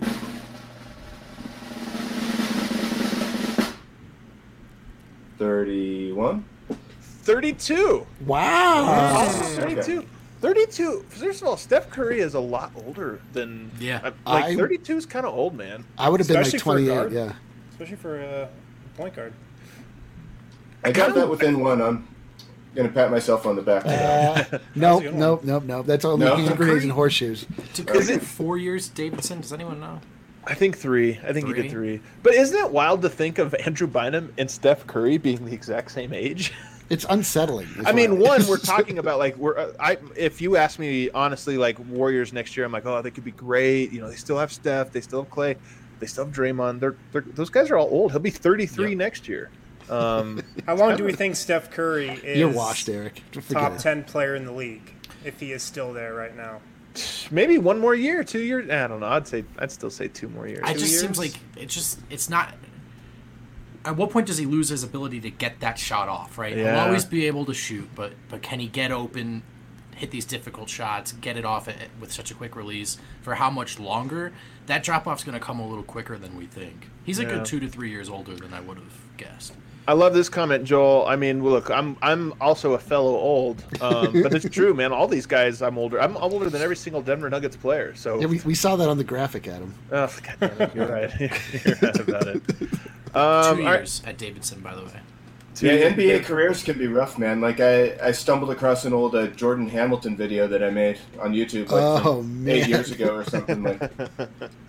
31? 32. Wow. 32. 32. First of all, Steph Curry is a lot older than... Yeah. 32 is kind of old, man. I would have been like Especially for a 28, guard. yeah. Especially for a point guard. I got that within one. I'm going to pat myself on the back. No. That's only hand grenades and horseshoes. Is it 4 years, Davidson? Does anyone know? I think 3. I think he did 3. But isn't it wild to think of Andrew Bynum and Steph Curry being the exact same age? It's unsettling. I mean, one, we're talking about like if you ask me honestly, like Warriors next year, I'm like, oh, they could be great. They still have Steph, they still have Clay, they still have Draymond. Those guys are all old. He'll be 33 next year. How long do we think Steph Curry is? You're washed, Eric. Top 10 player in the league if he is still there right now. Maybe 1 more year, 2 years. I don't know. I'd still say 2 more years. It just seems like it's not. At what point does he lose his ability to get that shot off? Right, Yeah. He'll always be able to shoot, but can he get open, hit these difficult shots, get it off with such a quick release? For how much longer? That drop off's going to come a little quicker than we think. He's a good 2 to 3 years older than I would have guessed. I love this comment, Joel. I mean, look, I'm also a fellow old, but it's true, man. All these guys, I'm older. I'm older than every single Denver Nuggets player. So yeah, we saw that on the graphic, Adam. Oh, God damn it. You're right. You're right about it. 2 years at Davidson, by the way. Yeah, NBA careers can be rough, man. Like I stumbled across an old Jordan Hamilton video that I made on YouTube like 8 years ago or something. Like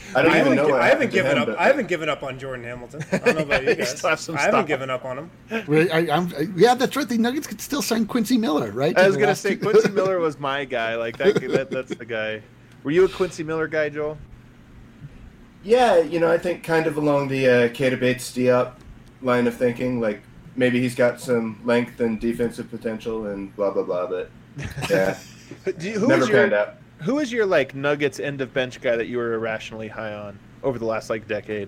I haven't given up. I haven't given up on Jordan Hamilton. I don't know about you guys. I haven't given up on him. Yeah, that's right. The Nuggets could still sign Quincy Miller, right? I was gonna say Quincy Miller was my guy. Like that's the guy. Were you a Quincy Miller guy, Joel? Yeah, I think kind of along the Keita Bates-Diop line of thinking. Like maybe he's got some length and defensive potential and blah blah blah. But yeah, never panned out. Who is your like Nuggets end of bench guy that you were irrationally high on over the last like decade?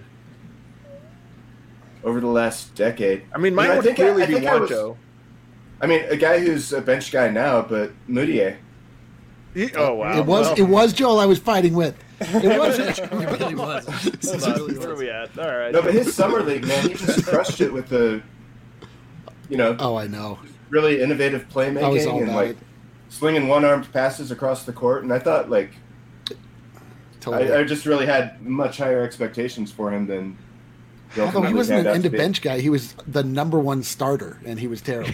Over the last decade, I mean, mine would clearly be Juancho. I mean, a guy who's a bench guy now, but Moutier. Oh wow! It was Joel I was fighting with. It was. It really was. Where are we at? All right. No, but his summer league, man, he just crushed it with the, Oh, I know. Really innovative playmaking and like slinging one-armed passes across the court, and I thought like, totally. I just really had much higher expectations for him than. Although he wasn't an end of bench guy, he was the number one starter, and he was terrible.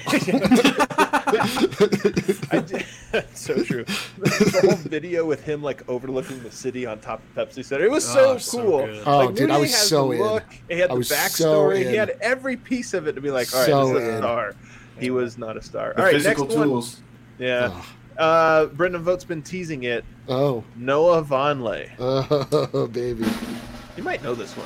So true. The whole video with him like overlooking the city on top of Pepsi Center. It was so cool. Dude, I was so in. He had the backstory. He had every piece of it to be like, all right, this is a star. He was not a star. All right, physical tools. Yeah. Brendan Vogt's been teasing it. Oh. Noah Vonleh. Oh, baby. You might know this one.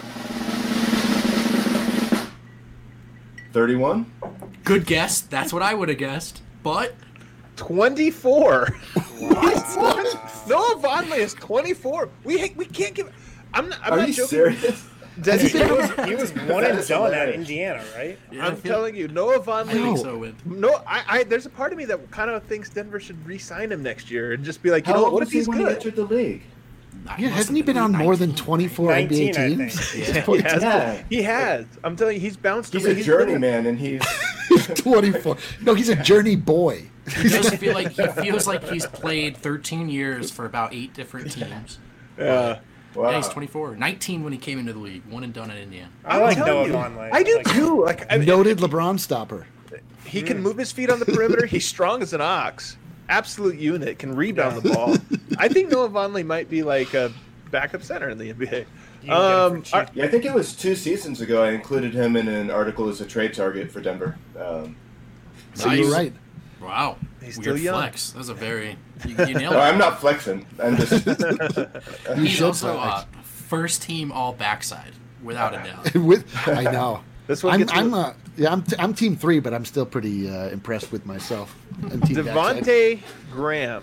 31? Good guess. That's what I would have guessed. But 24. What? Noah Vonleh is 24. We can't give. I'm not joking. Serious? He was one and done at Indiana, right? Yeah, I'm telling you, Noah Vonleh. No, there's a part of me that kind of thinks Denver should re-sign him next year and just be like, what if he's good? He entered the league. Yeah, hasn't he been on more than 24 NBA teams? He has. I'm telling you, he's bounced. He's a journeyman, and he's 24. No, he's a journey boy. He feels like he's played 13 years for about 8 different teams. Yeah. Wow. Yeah, he's 24. 19 when he came into the league. One and done at Indiana. I like Noah Vonleh. I do too. Noted LeBron stopper. He can move his feet on the perimeter. He's strong as an ox. Absolute unit. Can rebound the ball. I think Noah Vonleh might be like a backup center in the NBA. I think it was 2 seasons ago I included him in an article as a trade target for Denver. So you're right. Wow. He's Weird still young. flex. That was a very... You nailed it. No, I'm not flexing. I'm just... He's also first team all backside, without a doubt. I know. This one I'm team 3, but I'm still pretty impressed with myself. Devontae Graham.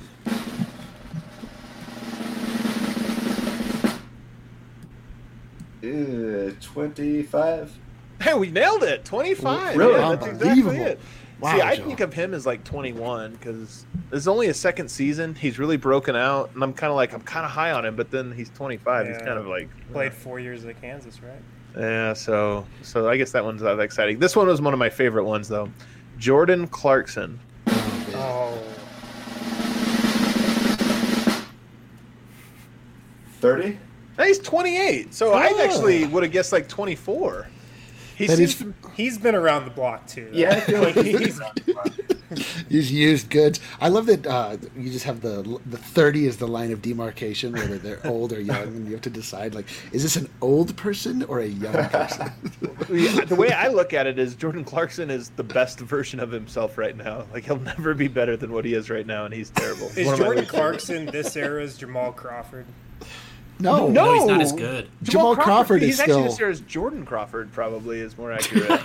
Uh, 25. Hey, we nailed it. 25. Really? Yeah, that's exactly it. Wow, See, I Joe. think of him as like 21 because it's only his second season. He's really broken out, and I'm kind of high on him. But then he's 25. He's kind of like played 4 years at Kansas, right? Yeah. So I guess that one's not that exciting. This one was one of my favorite ones though. Jordan Clarkson. Oh. 30? He's 28. So I actually would have guessed like 24. He's been around the block too. Though. Yeah, I feel like he's used goods. I love that you just have the 30 is the line of demarcation, whether they're old or young, and you have to decide like, is this an old person or a young person? The way I look at it is Jordan Clarkson is the best version of himself right now. Like he'll never be better than what he is right now, and he's terrible. Is Jordan Clarkson this era's Jamal Crawford? No, he's not as good. Jamal Crawford is he's still... actually this year's Jordan Crawford probably is more accurate.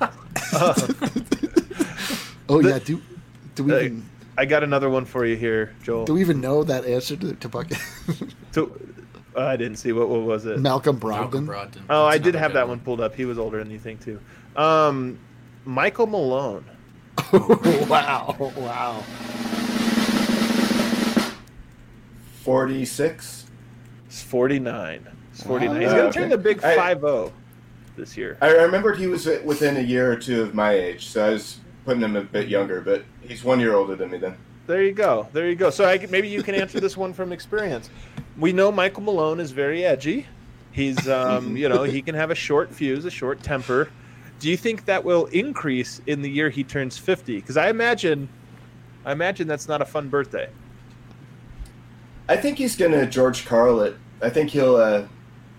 Yeah, do we even... I got another one for you here, Joel. Do we even know that answer to Bucket? I didn't see what was it? Malcolm Brogdon. Oh, I did have that one pulled up. He was older than you think too. Michael Malone. Wow. 46. It's 49. It's 49. Wow. He's going to turn the big 5-0 this year. I remembered he was within a year or two of my age, so I was putting him a bit younger, but he's 1 year older than me then. There you go. So maybe you can answer this one from experience. We know Michael Malone is very edgy. He's, he can have a short fuse, a short temper. Do you think that will increase in the year he turns 50? Because I imagine that's not a fun birthday. I think he's going to George Karl it. I think he'll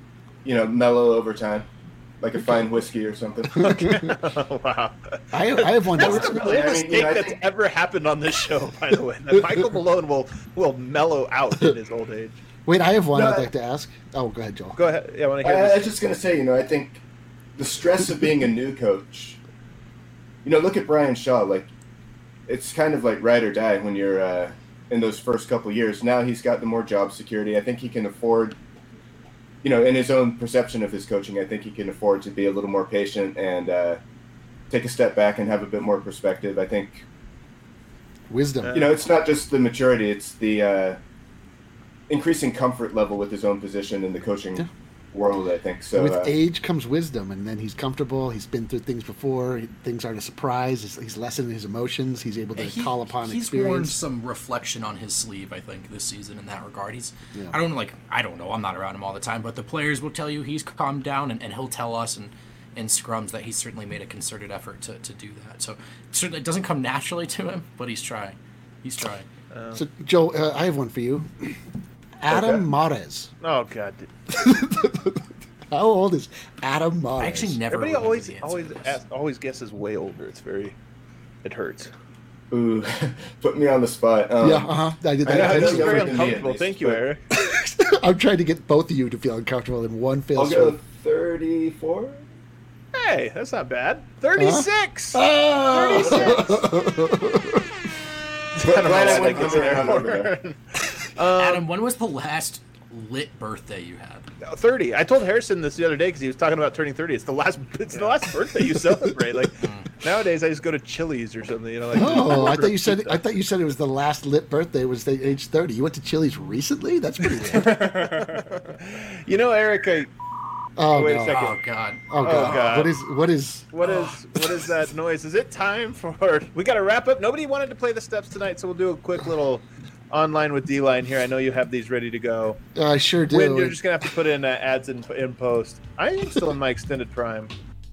mellow over time, like a fine whiskey or something. Wow. I have one. That's the mistake that's ever happened on this show, by the way. That Michael Malone will mellow out in his old age. Wait, I have one I'd like to ask. Oh, go ahead, Joel. Go ahead. Yeah, I want to hear I was just going to say, I think the stress of being a new coach, look at Brian Shaw. Like, it's kind of like ride or die when you're in those first couple years. Now he's got the more job security. I think he can afford, in his own perception of his coaching, I think he can afford to be a little more patient and take a step back and have a bit more perspective. I think wisdom. It's not just the maturity; it's the increasing comfort level with his own position in the coaching world. I think so. With age comes wisdom, and then he's comfortable. He's been through things before. Things aren't a surprise. He's lessening his emotions. He's able to call upon he's experience. Worn some reflection on his sleeve, I think, this season in that regard. I don't know. I'm not around him all the time, but the players will tell you he's calmed down, and he'll tell us in scrums that he's certainly made a concerted effort to do that. So certainly it doesn't come naturally to him, but he's trying. He's trying. So Joe, I have one for you. Adam Mares. Oh God! How old is Adam Mares? I actually never. Everybody always guesses way older. It hurts. Ooh, put me on the spot. I did that. That's very uncomfortable. Thank you, Eric. I'm trying to get both of you to feel uncomfortable in one fell swoop. I'll go 34. Hey, that's not bad. 36. 36. Adam, when was the last lit birthday you had? 30. I told Harrison this the other day because he was talking about turning 30. It's the last birthday you celebrate. Like nowadays, I just go to Chili's or something. I thought you said it was the last lit birthday was the age 30. You went to Chili's recently? That's pretty lit. Eric. Wait a second. Oh God. Oh God. What is that noise? Is it time for? We got to wrap up. Nobody wanted to play the steps tonight, so we'll do a quick little online with D-Line here. I know you have these ready to go. I sure do. Win, you're just gonna have to put in ads in post. I am still in my extended prime.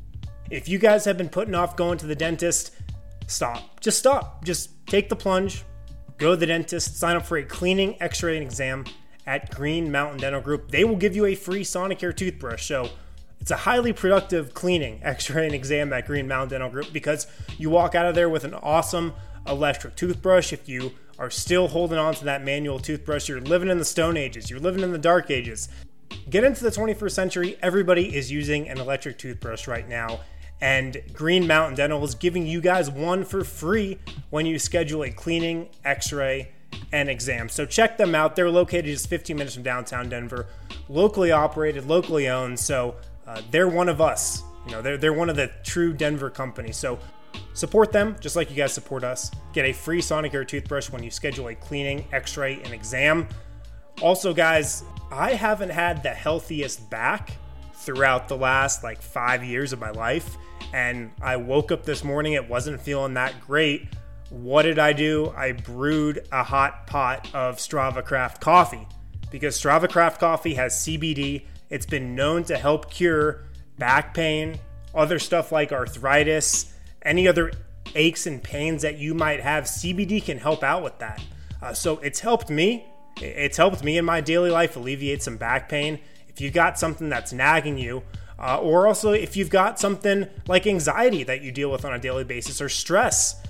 If you guys have been putting off going to the dentist, stop. Just stop. Just take the plunge. Go to the dentist. Sign up for a cleaning, X-ray, and exam at Green Mountain Dental Group. They will give you a free Sonicare toothbrush. So it's a highly productive cleaning, X-ray, and exam at Green Mountain Dental Group because you walk out of there with an awesome electric toothbrush. If you are still holding on to that manual toothbrush, you're living in the Stone Ages, you're living in the Dark Ages. Get into the 21st century. Everybody is using an electric toothbrush right now, and Green Mountain Dental is giving you guys one for free when you schedule a cleaning, X-ray, and exam. So check them out. They're located just 15 minutes from downtown Denver, locally operated, locally owned. So they're one of us. They're one of the true Denver companies. So support them just like you guys support us. Get a free Sonicare toothbrush when you schedule a cleaning, X-ray, and exam. Also, guys, I haven't had the healthiest back throughout the last 5 years of my life, and I woke up this morning, it wasn't feeling that great. What did I do? I brewed a hot pot of Strava Craft coffee because Strava Craft coffee has CBD. It's been known to help cure back pain, other stuff like arthritis, any other aches and pains that you might have. CBD can help out with that. So it's helped me. It's helped me in my daily life alleviate some back pain. If you've got something that's nagging you, or also if you've got something like anxiety that you deal with on a daily basis or stress,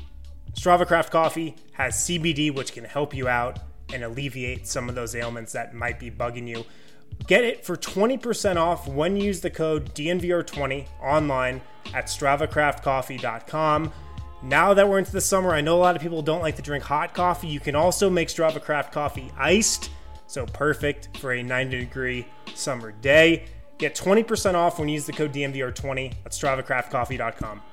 Strava Craft Coffee has CBD, which can help you out and alleviate some of those ailments that might be bugging you. Get it for 20% off when you use the code DNVR20 online at StravaCraftCoffee.com. Now that we're into the summer, I know a lot of people don't like to drink hot coffee. You can also make Strava Craft Coffee iced, so perfect for a 90-degree summer day. Get 20% off when you use the code DNVR20 at StravaCraftCoffee.com.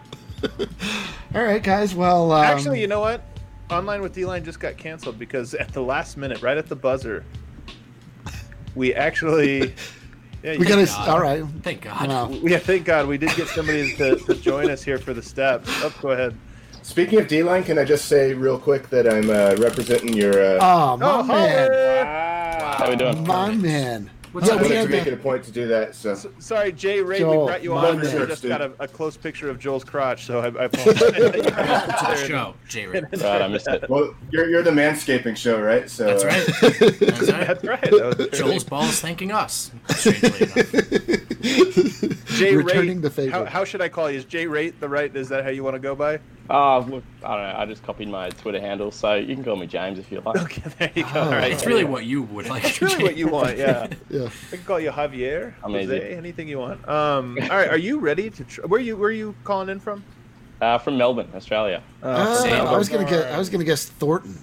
All right, guys. Well, actually, you know what? Online with D-Line just got canceled because at the last minute, right at the buzzer, we actually... Yeah, we got to... All right. Thank God. Wow. Yeah, thank God. We did get somebody to join us here for the steps. Oh, go ahead. Speaking of D-Line, can I just say real quick that I'm representing your... Oh, my man. Wow. How we doing? My man. What's I up, wanted Jay to make Ray? it a point to do that. So Sorry, Jay Ray, Joel, we brought you my on. We man. just got a close picture of Joel's crotch, so I apologize. Welcome to the show, Jay Ray. Right, I missed it. well, you're the manscaping show, right? So That's right. That's right. That's right. That was Joel's balls thanking us. Strangely enough. Jay Returning Ray. the favor. How should I call you? Is Jay Ray the right? Is that how you want to go by? Look, I don't know. I just copied my Twitter handle, so you can call me James if you like. Okay, there you go. Oh. All right. It's really what you would like. It's really what you want. Yeah. Yeah. I can call you Javier, Amazing. Jose, anything you want. All right, are you ready to? Where you calling in from? From Melbourne, Australia. I was gonna guess Thornton.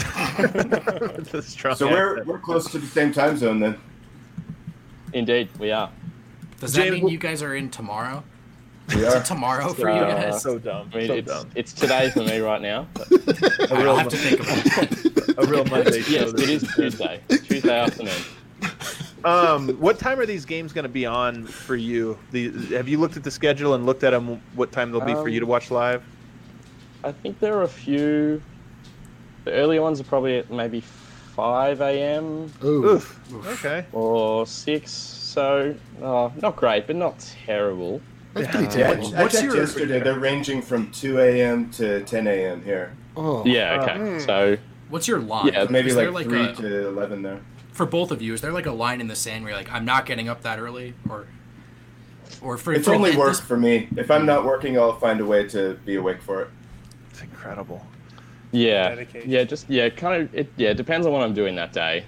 That's a strong So accent. we're close to the same time zone then. Indeed, we are. Does that James, mean you guys are in tomorrow? We Is are. it tomorrow for you guys? So dumb. I mean, So dumb. it's today for me right now. But All right, I'll have to think about that. A real Monday show. yes, it is Tuesday. Tuesday afternoon. What time are these games going to be on for you? Have you looked at the schedule and looked at them? What time they'll be for you to watch live? I think there are a few. The earlier ones are probably at maybe 5 a.m. Ooh. Oof. Okay. or 6. So, not great, but not terrible. That's pretty Yeah, terrible. I What's checked your- yesterday. They're ranging from 2 a.m. to 10 a.m. here. Oh. Yeah, okay. So, What's your line? Yeah, Maybe Is like, there like 3 a, to 11 there. for both of you, is there like a line in the sand where you're like, I'm not getting up that early, or for It's for only at work this- for me. If I'm not working, I'll find a way to be awake for it. It's incredible. yeah. Dedication. It depends on what I'm doing that day.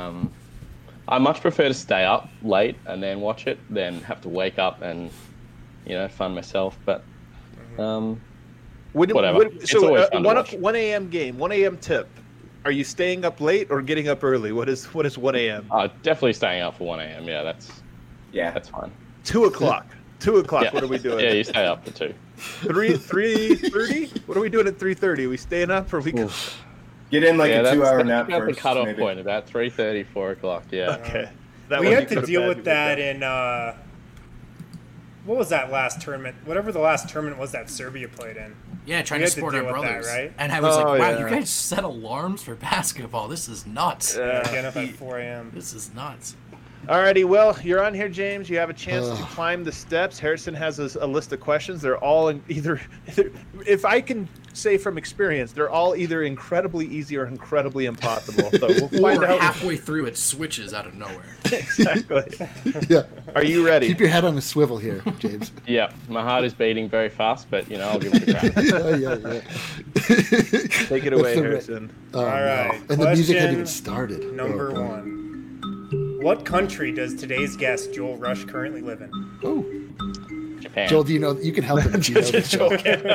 I much prefer to stay up late and then watch it than have to wake up and, fund myself. But, whatever. It's So, always fun to 1 watch. 1 a.m. game, 1 a.m. tip. Are you staying up late or getting up early? What is 1 a.m.? Definitely staying up for 1 a.m. Yeah, Yeah. that's fine. 2 o'clock. 2 o'clock. Yeah. What are we doing? Yeah, you stay up for 2. 3:30. What are we doing at 3:30? Are we staying up or are we? Get in like yeah, a that's 2-hour nap about first. the cutoff maybe. point, about 3:30, 4 o'clock. Yeah. Okay. That We one had you to could've deal had with to that get in what was that last tournament? Whatever the last tournament was that Serbia played in. Yeah, trying We to had to support our deal with that, brothers. right? And I was Oh, like, wow, yeah. you guys set alarms for basketball. This is nuts. Getting up at 4 a.m. This is nuts. Alrighty, well, you're on here, James. You have a chance to climb the steps. Harrison has a list of questions. They're all in either, if I can say from experience, they're all either incredibly easy or incredibly impossible. So we'll find Or out. halfway through, it switches out of nowhere. Exactly. Yeah. Are you ready? Keep your head on a swivel here, James. Yeah, my heart is beating very fast, but I'll give it a crack. yeah. Take it away, That's the- Harrison. Oh, All right. no. And the music hadn't Question even started. Number Oh, God. 1. What country does today's guest Joel Rush currently live in? Oh, Japan. Joel, do you know? You can help him if you know this. Joel.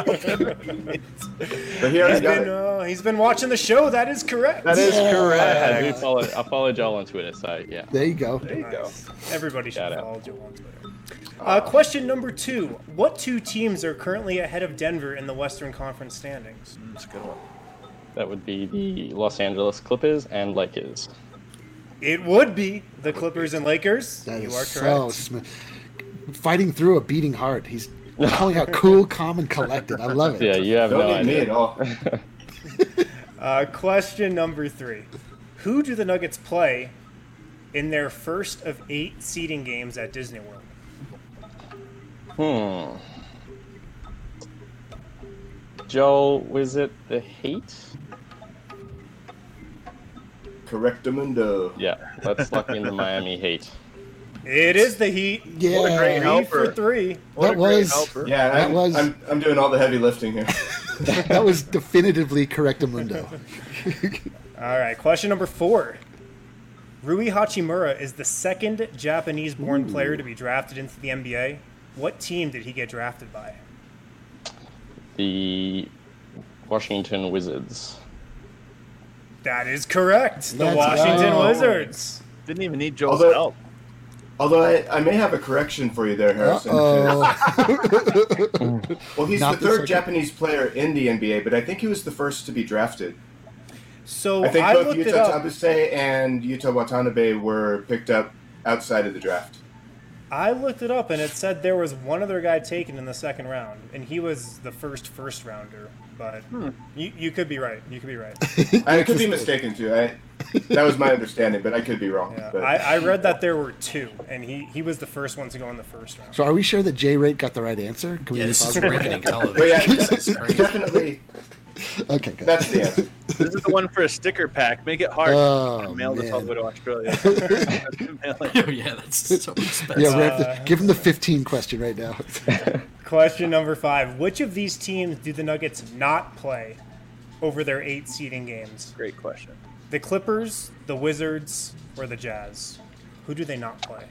But here I got it. He's been watching the show. That is correct. That is I correct. follow Joel on Twitter, so yeah. There you go. There you go. Everybody should Shout out. follow Joel on Twitter. Question number 2. What 2 teams are currently ahead of Denver in the Western Conference standings? That's a good one. That would be the Los Angeles Clippers and Lakers. It would be the Clippers and Lakers. That You is are so correct. smooth. Fighting through a beating heart. He's calling out cool, calm, and collected. I love it. Yeah, you have no Don't need me idea. at all. Question number 3. Who do the Nuggets play in their first of 8 seeding games at Disney World? Joel, was it the Heat? Correctamundo. Yeah, that's lucky in the Miami Heat. It is the Heat. Yeah. What a great 3 helper. for 3. What That a great was- helper. Yeah, That was- I'm doing all the heavy lifting here. That was definitively Correctamundo. All right, question number 4. Rui Hachimura is the second Japanese-born player to be drafted into the NBA. What team did he get drafted by? The Washington Wizards. That is correct. The Let's Washington go. Wizards. Didn't even need Joel's Although- help. Although I may have a correction for you there, Harrison. Oh, Well, he's Not the the third second. Japanese player in the NBA, but I think he was the first to be drafted. So I think I both looked it Yuta up. Tabase and Yuta Watanabe were picked up outside of the draft. I looked it up, and it said there was one other guy taken in the second round, and he was the first rounder. But you could be right. You could be right. I could be mistaken too. That was my understanding, but I could be wrong. Yeah. But... I read that there were 2, and he was the first one to go in the first round. So are we sure that J-Rate got the right answer? Can we Yeah, be this is positive? riveting television. But yeah, This is crazy. definitely. Okay, good. That's the answer. This is the one for a sticker pack. Make it hard. Oh, Mail this all the way man. to Australia. Oh, yeah, that's so expensive. Yeah, we have to give him the 15 question right now. Question number 5. Which of these teams do the Nuggets not play over their 8 seeding games? Great question. The Clippers, the Wizards, or the Jazz? Who do they not play?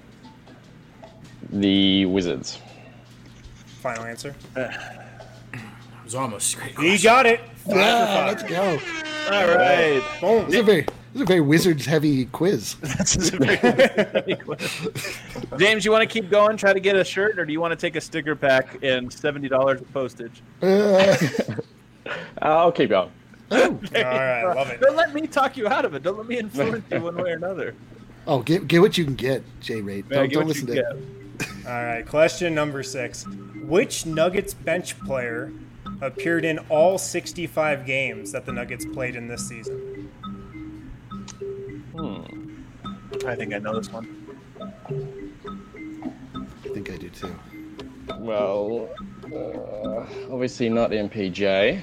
The Wizards. Final answer. It was almost a great You question. got it. 5 for Yeah, 5. let's go. All right. Boom. This is a very Wizards-heavy quiz. This is a very James, you want to keep going, try to get a shirt, or do you want to take a sticker pack and $70 of postage? I'll keep going. All right, love it. Don't let me talk you out of it. Don't let me influence you one way or another. Oh, get what you can get, J-Rate. Man, Don't listen to it. All right, question number 6. Which Nuggets bench player appeared in all 65 games that the Nuggets played in this season? I think I know this one. I think I do too. Well, obviously not MPJ.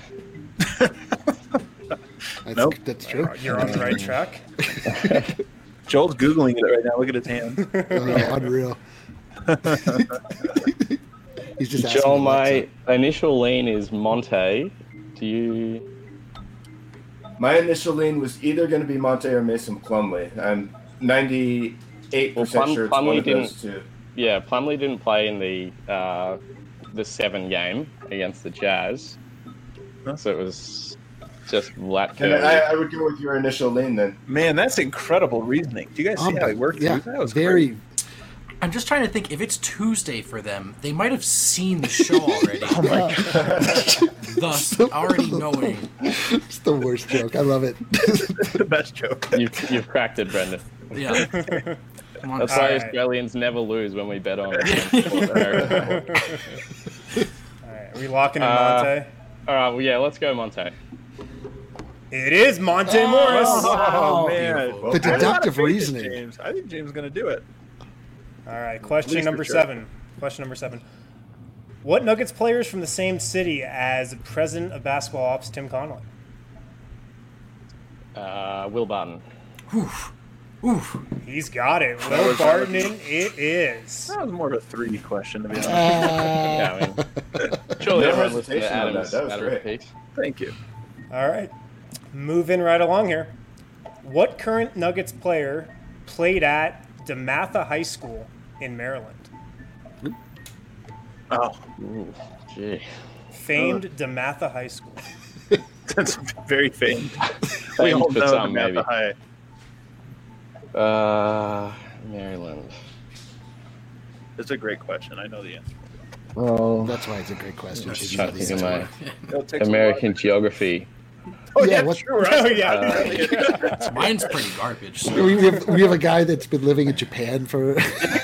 Nope. That's true. You're on the right track. Joel's Googling it right now. Look at his hand. Unreal. He's just asking Joel, Alexa. my initial lean is Monte. Do you... My initial lean was either going to be Monte or Mason Plumlee. I'm 98% sure it's one of those two. Yeah, Plumlee didn't play in the 7 game against the Jazz. So it was just Latko. And I would go with your initial lean then. Man, that's incredible reasoning. Do you guys see how he worked Yeah, through that? Was very. great. I'm just trying to think, if it's Tuesday for them, they might have seen the show already. Oh my God. Thus, already knowing. It's the worst joke. I love it. The best joke. You've cracked it, Brendan. Yeah. Come on. That's All why right. Australians never lose when we bet on America. All right, are we locking in Monte? All right, well, yeah, let's go Monte. It is Monte Morris. Oh, man. beautiful. The I got a deductive faith in reasoning. James. I think James is going to do it. All right, question Least number for sure. 7. Question number 7. What Nuggets players from the same city as president of basketball ops Tim Connolly? Will Barton. Oof. He's got it. That Will was- Barton, it is. That was more of a 3 question, to be honest. Yeah, I mean, surely No everyone listened to hesitation on Adam's, that. That was Adam's great. piece. Thank you. All right, moving right along here. What current Nuggets player played at DeMatha High School in Maryland? Oh, Ooh, gee. Famed DeMatha High School. that's very famed. We Famed all for know some, Samantha maybe. High. Maryland. It's a great question. I know the answer. Well, That's why it's a great question. That's Because you trying know to the think of answer. my It'll take some American logic. geography. Oh, Yeah, yeah, what- true. Oh, yeah. Mine's pretty garbage. So. We have a guy that's been living in Japan for.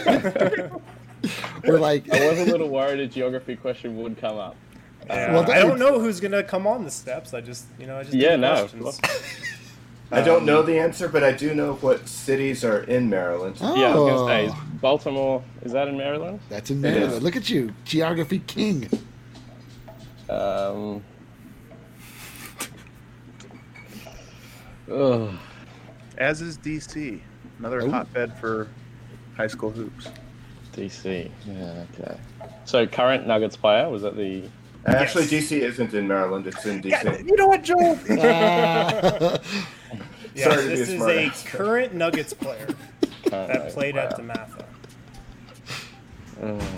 We're like. I was a little worried a geography question would come up. Yeah, Well, I don't know who's gonna come on the steps. I just do Yeah, the no, of questions. I don't know the answer, but I do know what cities are in Maryland. Oh, Yeah, I was gonna say, is Baltimore, is that in Maryland? that's in Maryland. Look at you, geography king. Ugh. As is DC, another Oh. hotbed for high school hoops. DC. Yeah, okay. So current Nuggets player, was that the... Actually, Yes. DC isn't in Maryland. It's in DC. You know what, Joel? Yeah, Sorry to be this a is smart a ass. current Nuggets player that played at player. DeMatha.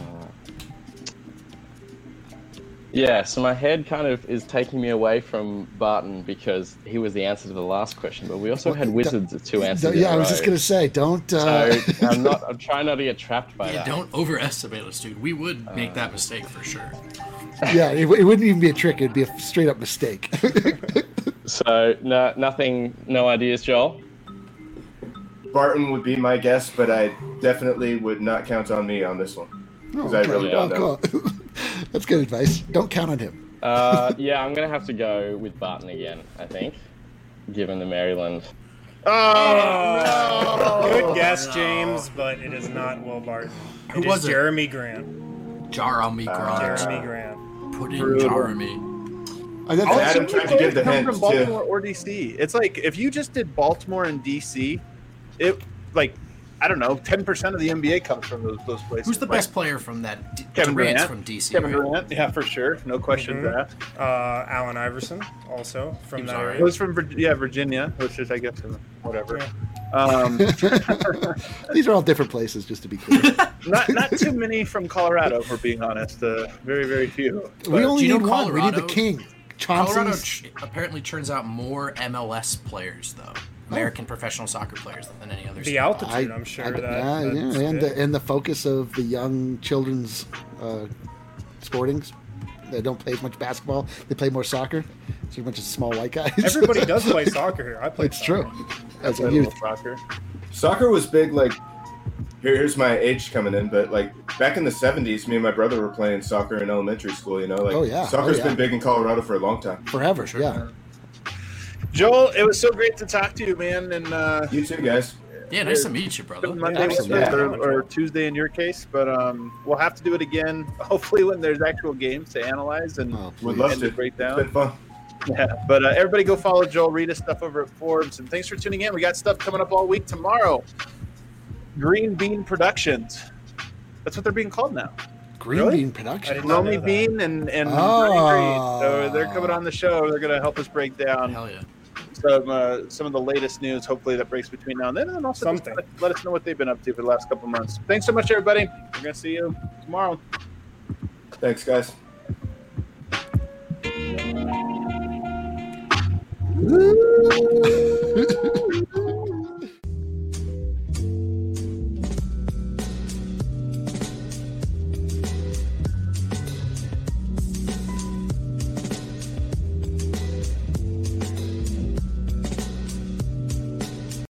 Yeah, so my head kind of is taking me away from Barton because he was the answer to the last question, but we also had Wizards as 2 answers. Yeah, I was in a just row. gonna say, don't. So I'm trying not to get trapped by Yeah, that. don't overestimate us, dude. We would make that mistake for sure. Yeah, it wouldn't even be a trick. It'd be a straight up mistake. So nothing, no ideas, Joel? Barton would be my guess, but I definitely would not count on me on this one. Because I really don't know. cool. That's good advice. Don't count on him. Yeah, I'm going to have to go with Barton again, I think, given the Maryland Oh, no. Good guess, James, but it is not Will Barton. Who was it? Jeremy Grant. Jeremy Grant. Jeremy Grant. Put in Jeremy. Adam tried to give the come hint from Baltimore or DC. It's like if you just did Baltimore and DC, it like I don't know, 10% of the NBA comes from those places. Who's the best player from that? Kevin Durant's Durant from DC. Kevin right? Durant, yeah, for sure, no question that. Allen Iverson, also from that area. It was from Virginia, which is I guess whatever. Yeah. These are all different places, just to be clear. Not too many from Colorado, if we're being honest. Very, very few. We only Do you need know one. We need the Colorado? king. Colorado Chauncey's. apparently turns out more MLS players, though. American professional soccer players than any other. The altitude, I'm sure. And the focus of the young children's sportings. They don't play as much basketball. They play more soccer. So a bunch of small white guys. Everybody does play soccer here. I play. It's true. As a Play youth. soccer. Soccer was big, like, here's my age coming in, but, like, back in the 70s, me and my brother were playing soccer in elementary school, you know? Like, soccer's been big in Colorado for a long time. Forever, yeah. Joel, it was so great to talk to you, man. And you too, guys. Yeah, nice to meet you, brother. Monday or Tuesday in your case, but we'll have to do it again. Hopefully, when there's actual games to analyze and would love to break down. It's been fun. Yeah, but everybody go follow Joel. Read his stuff over at Forbes, and thanks for tuning in. We got stuff coming up all week tomorrow. Green Bean Productions. That's what they're being called now. Green Bean Productions. Romy Bean and Green. So they're coming on the show. They're going to help us break down. Hell yeah. Some of the latest news, hopefully, that breaks between now and then. And then also just let us know what they've been up to for the last couple months. Thanks so much, everybody. We're going to see you tomorrow. Thanks, guys. Woo!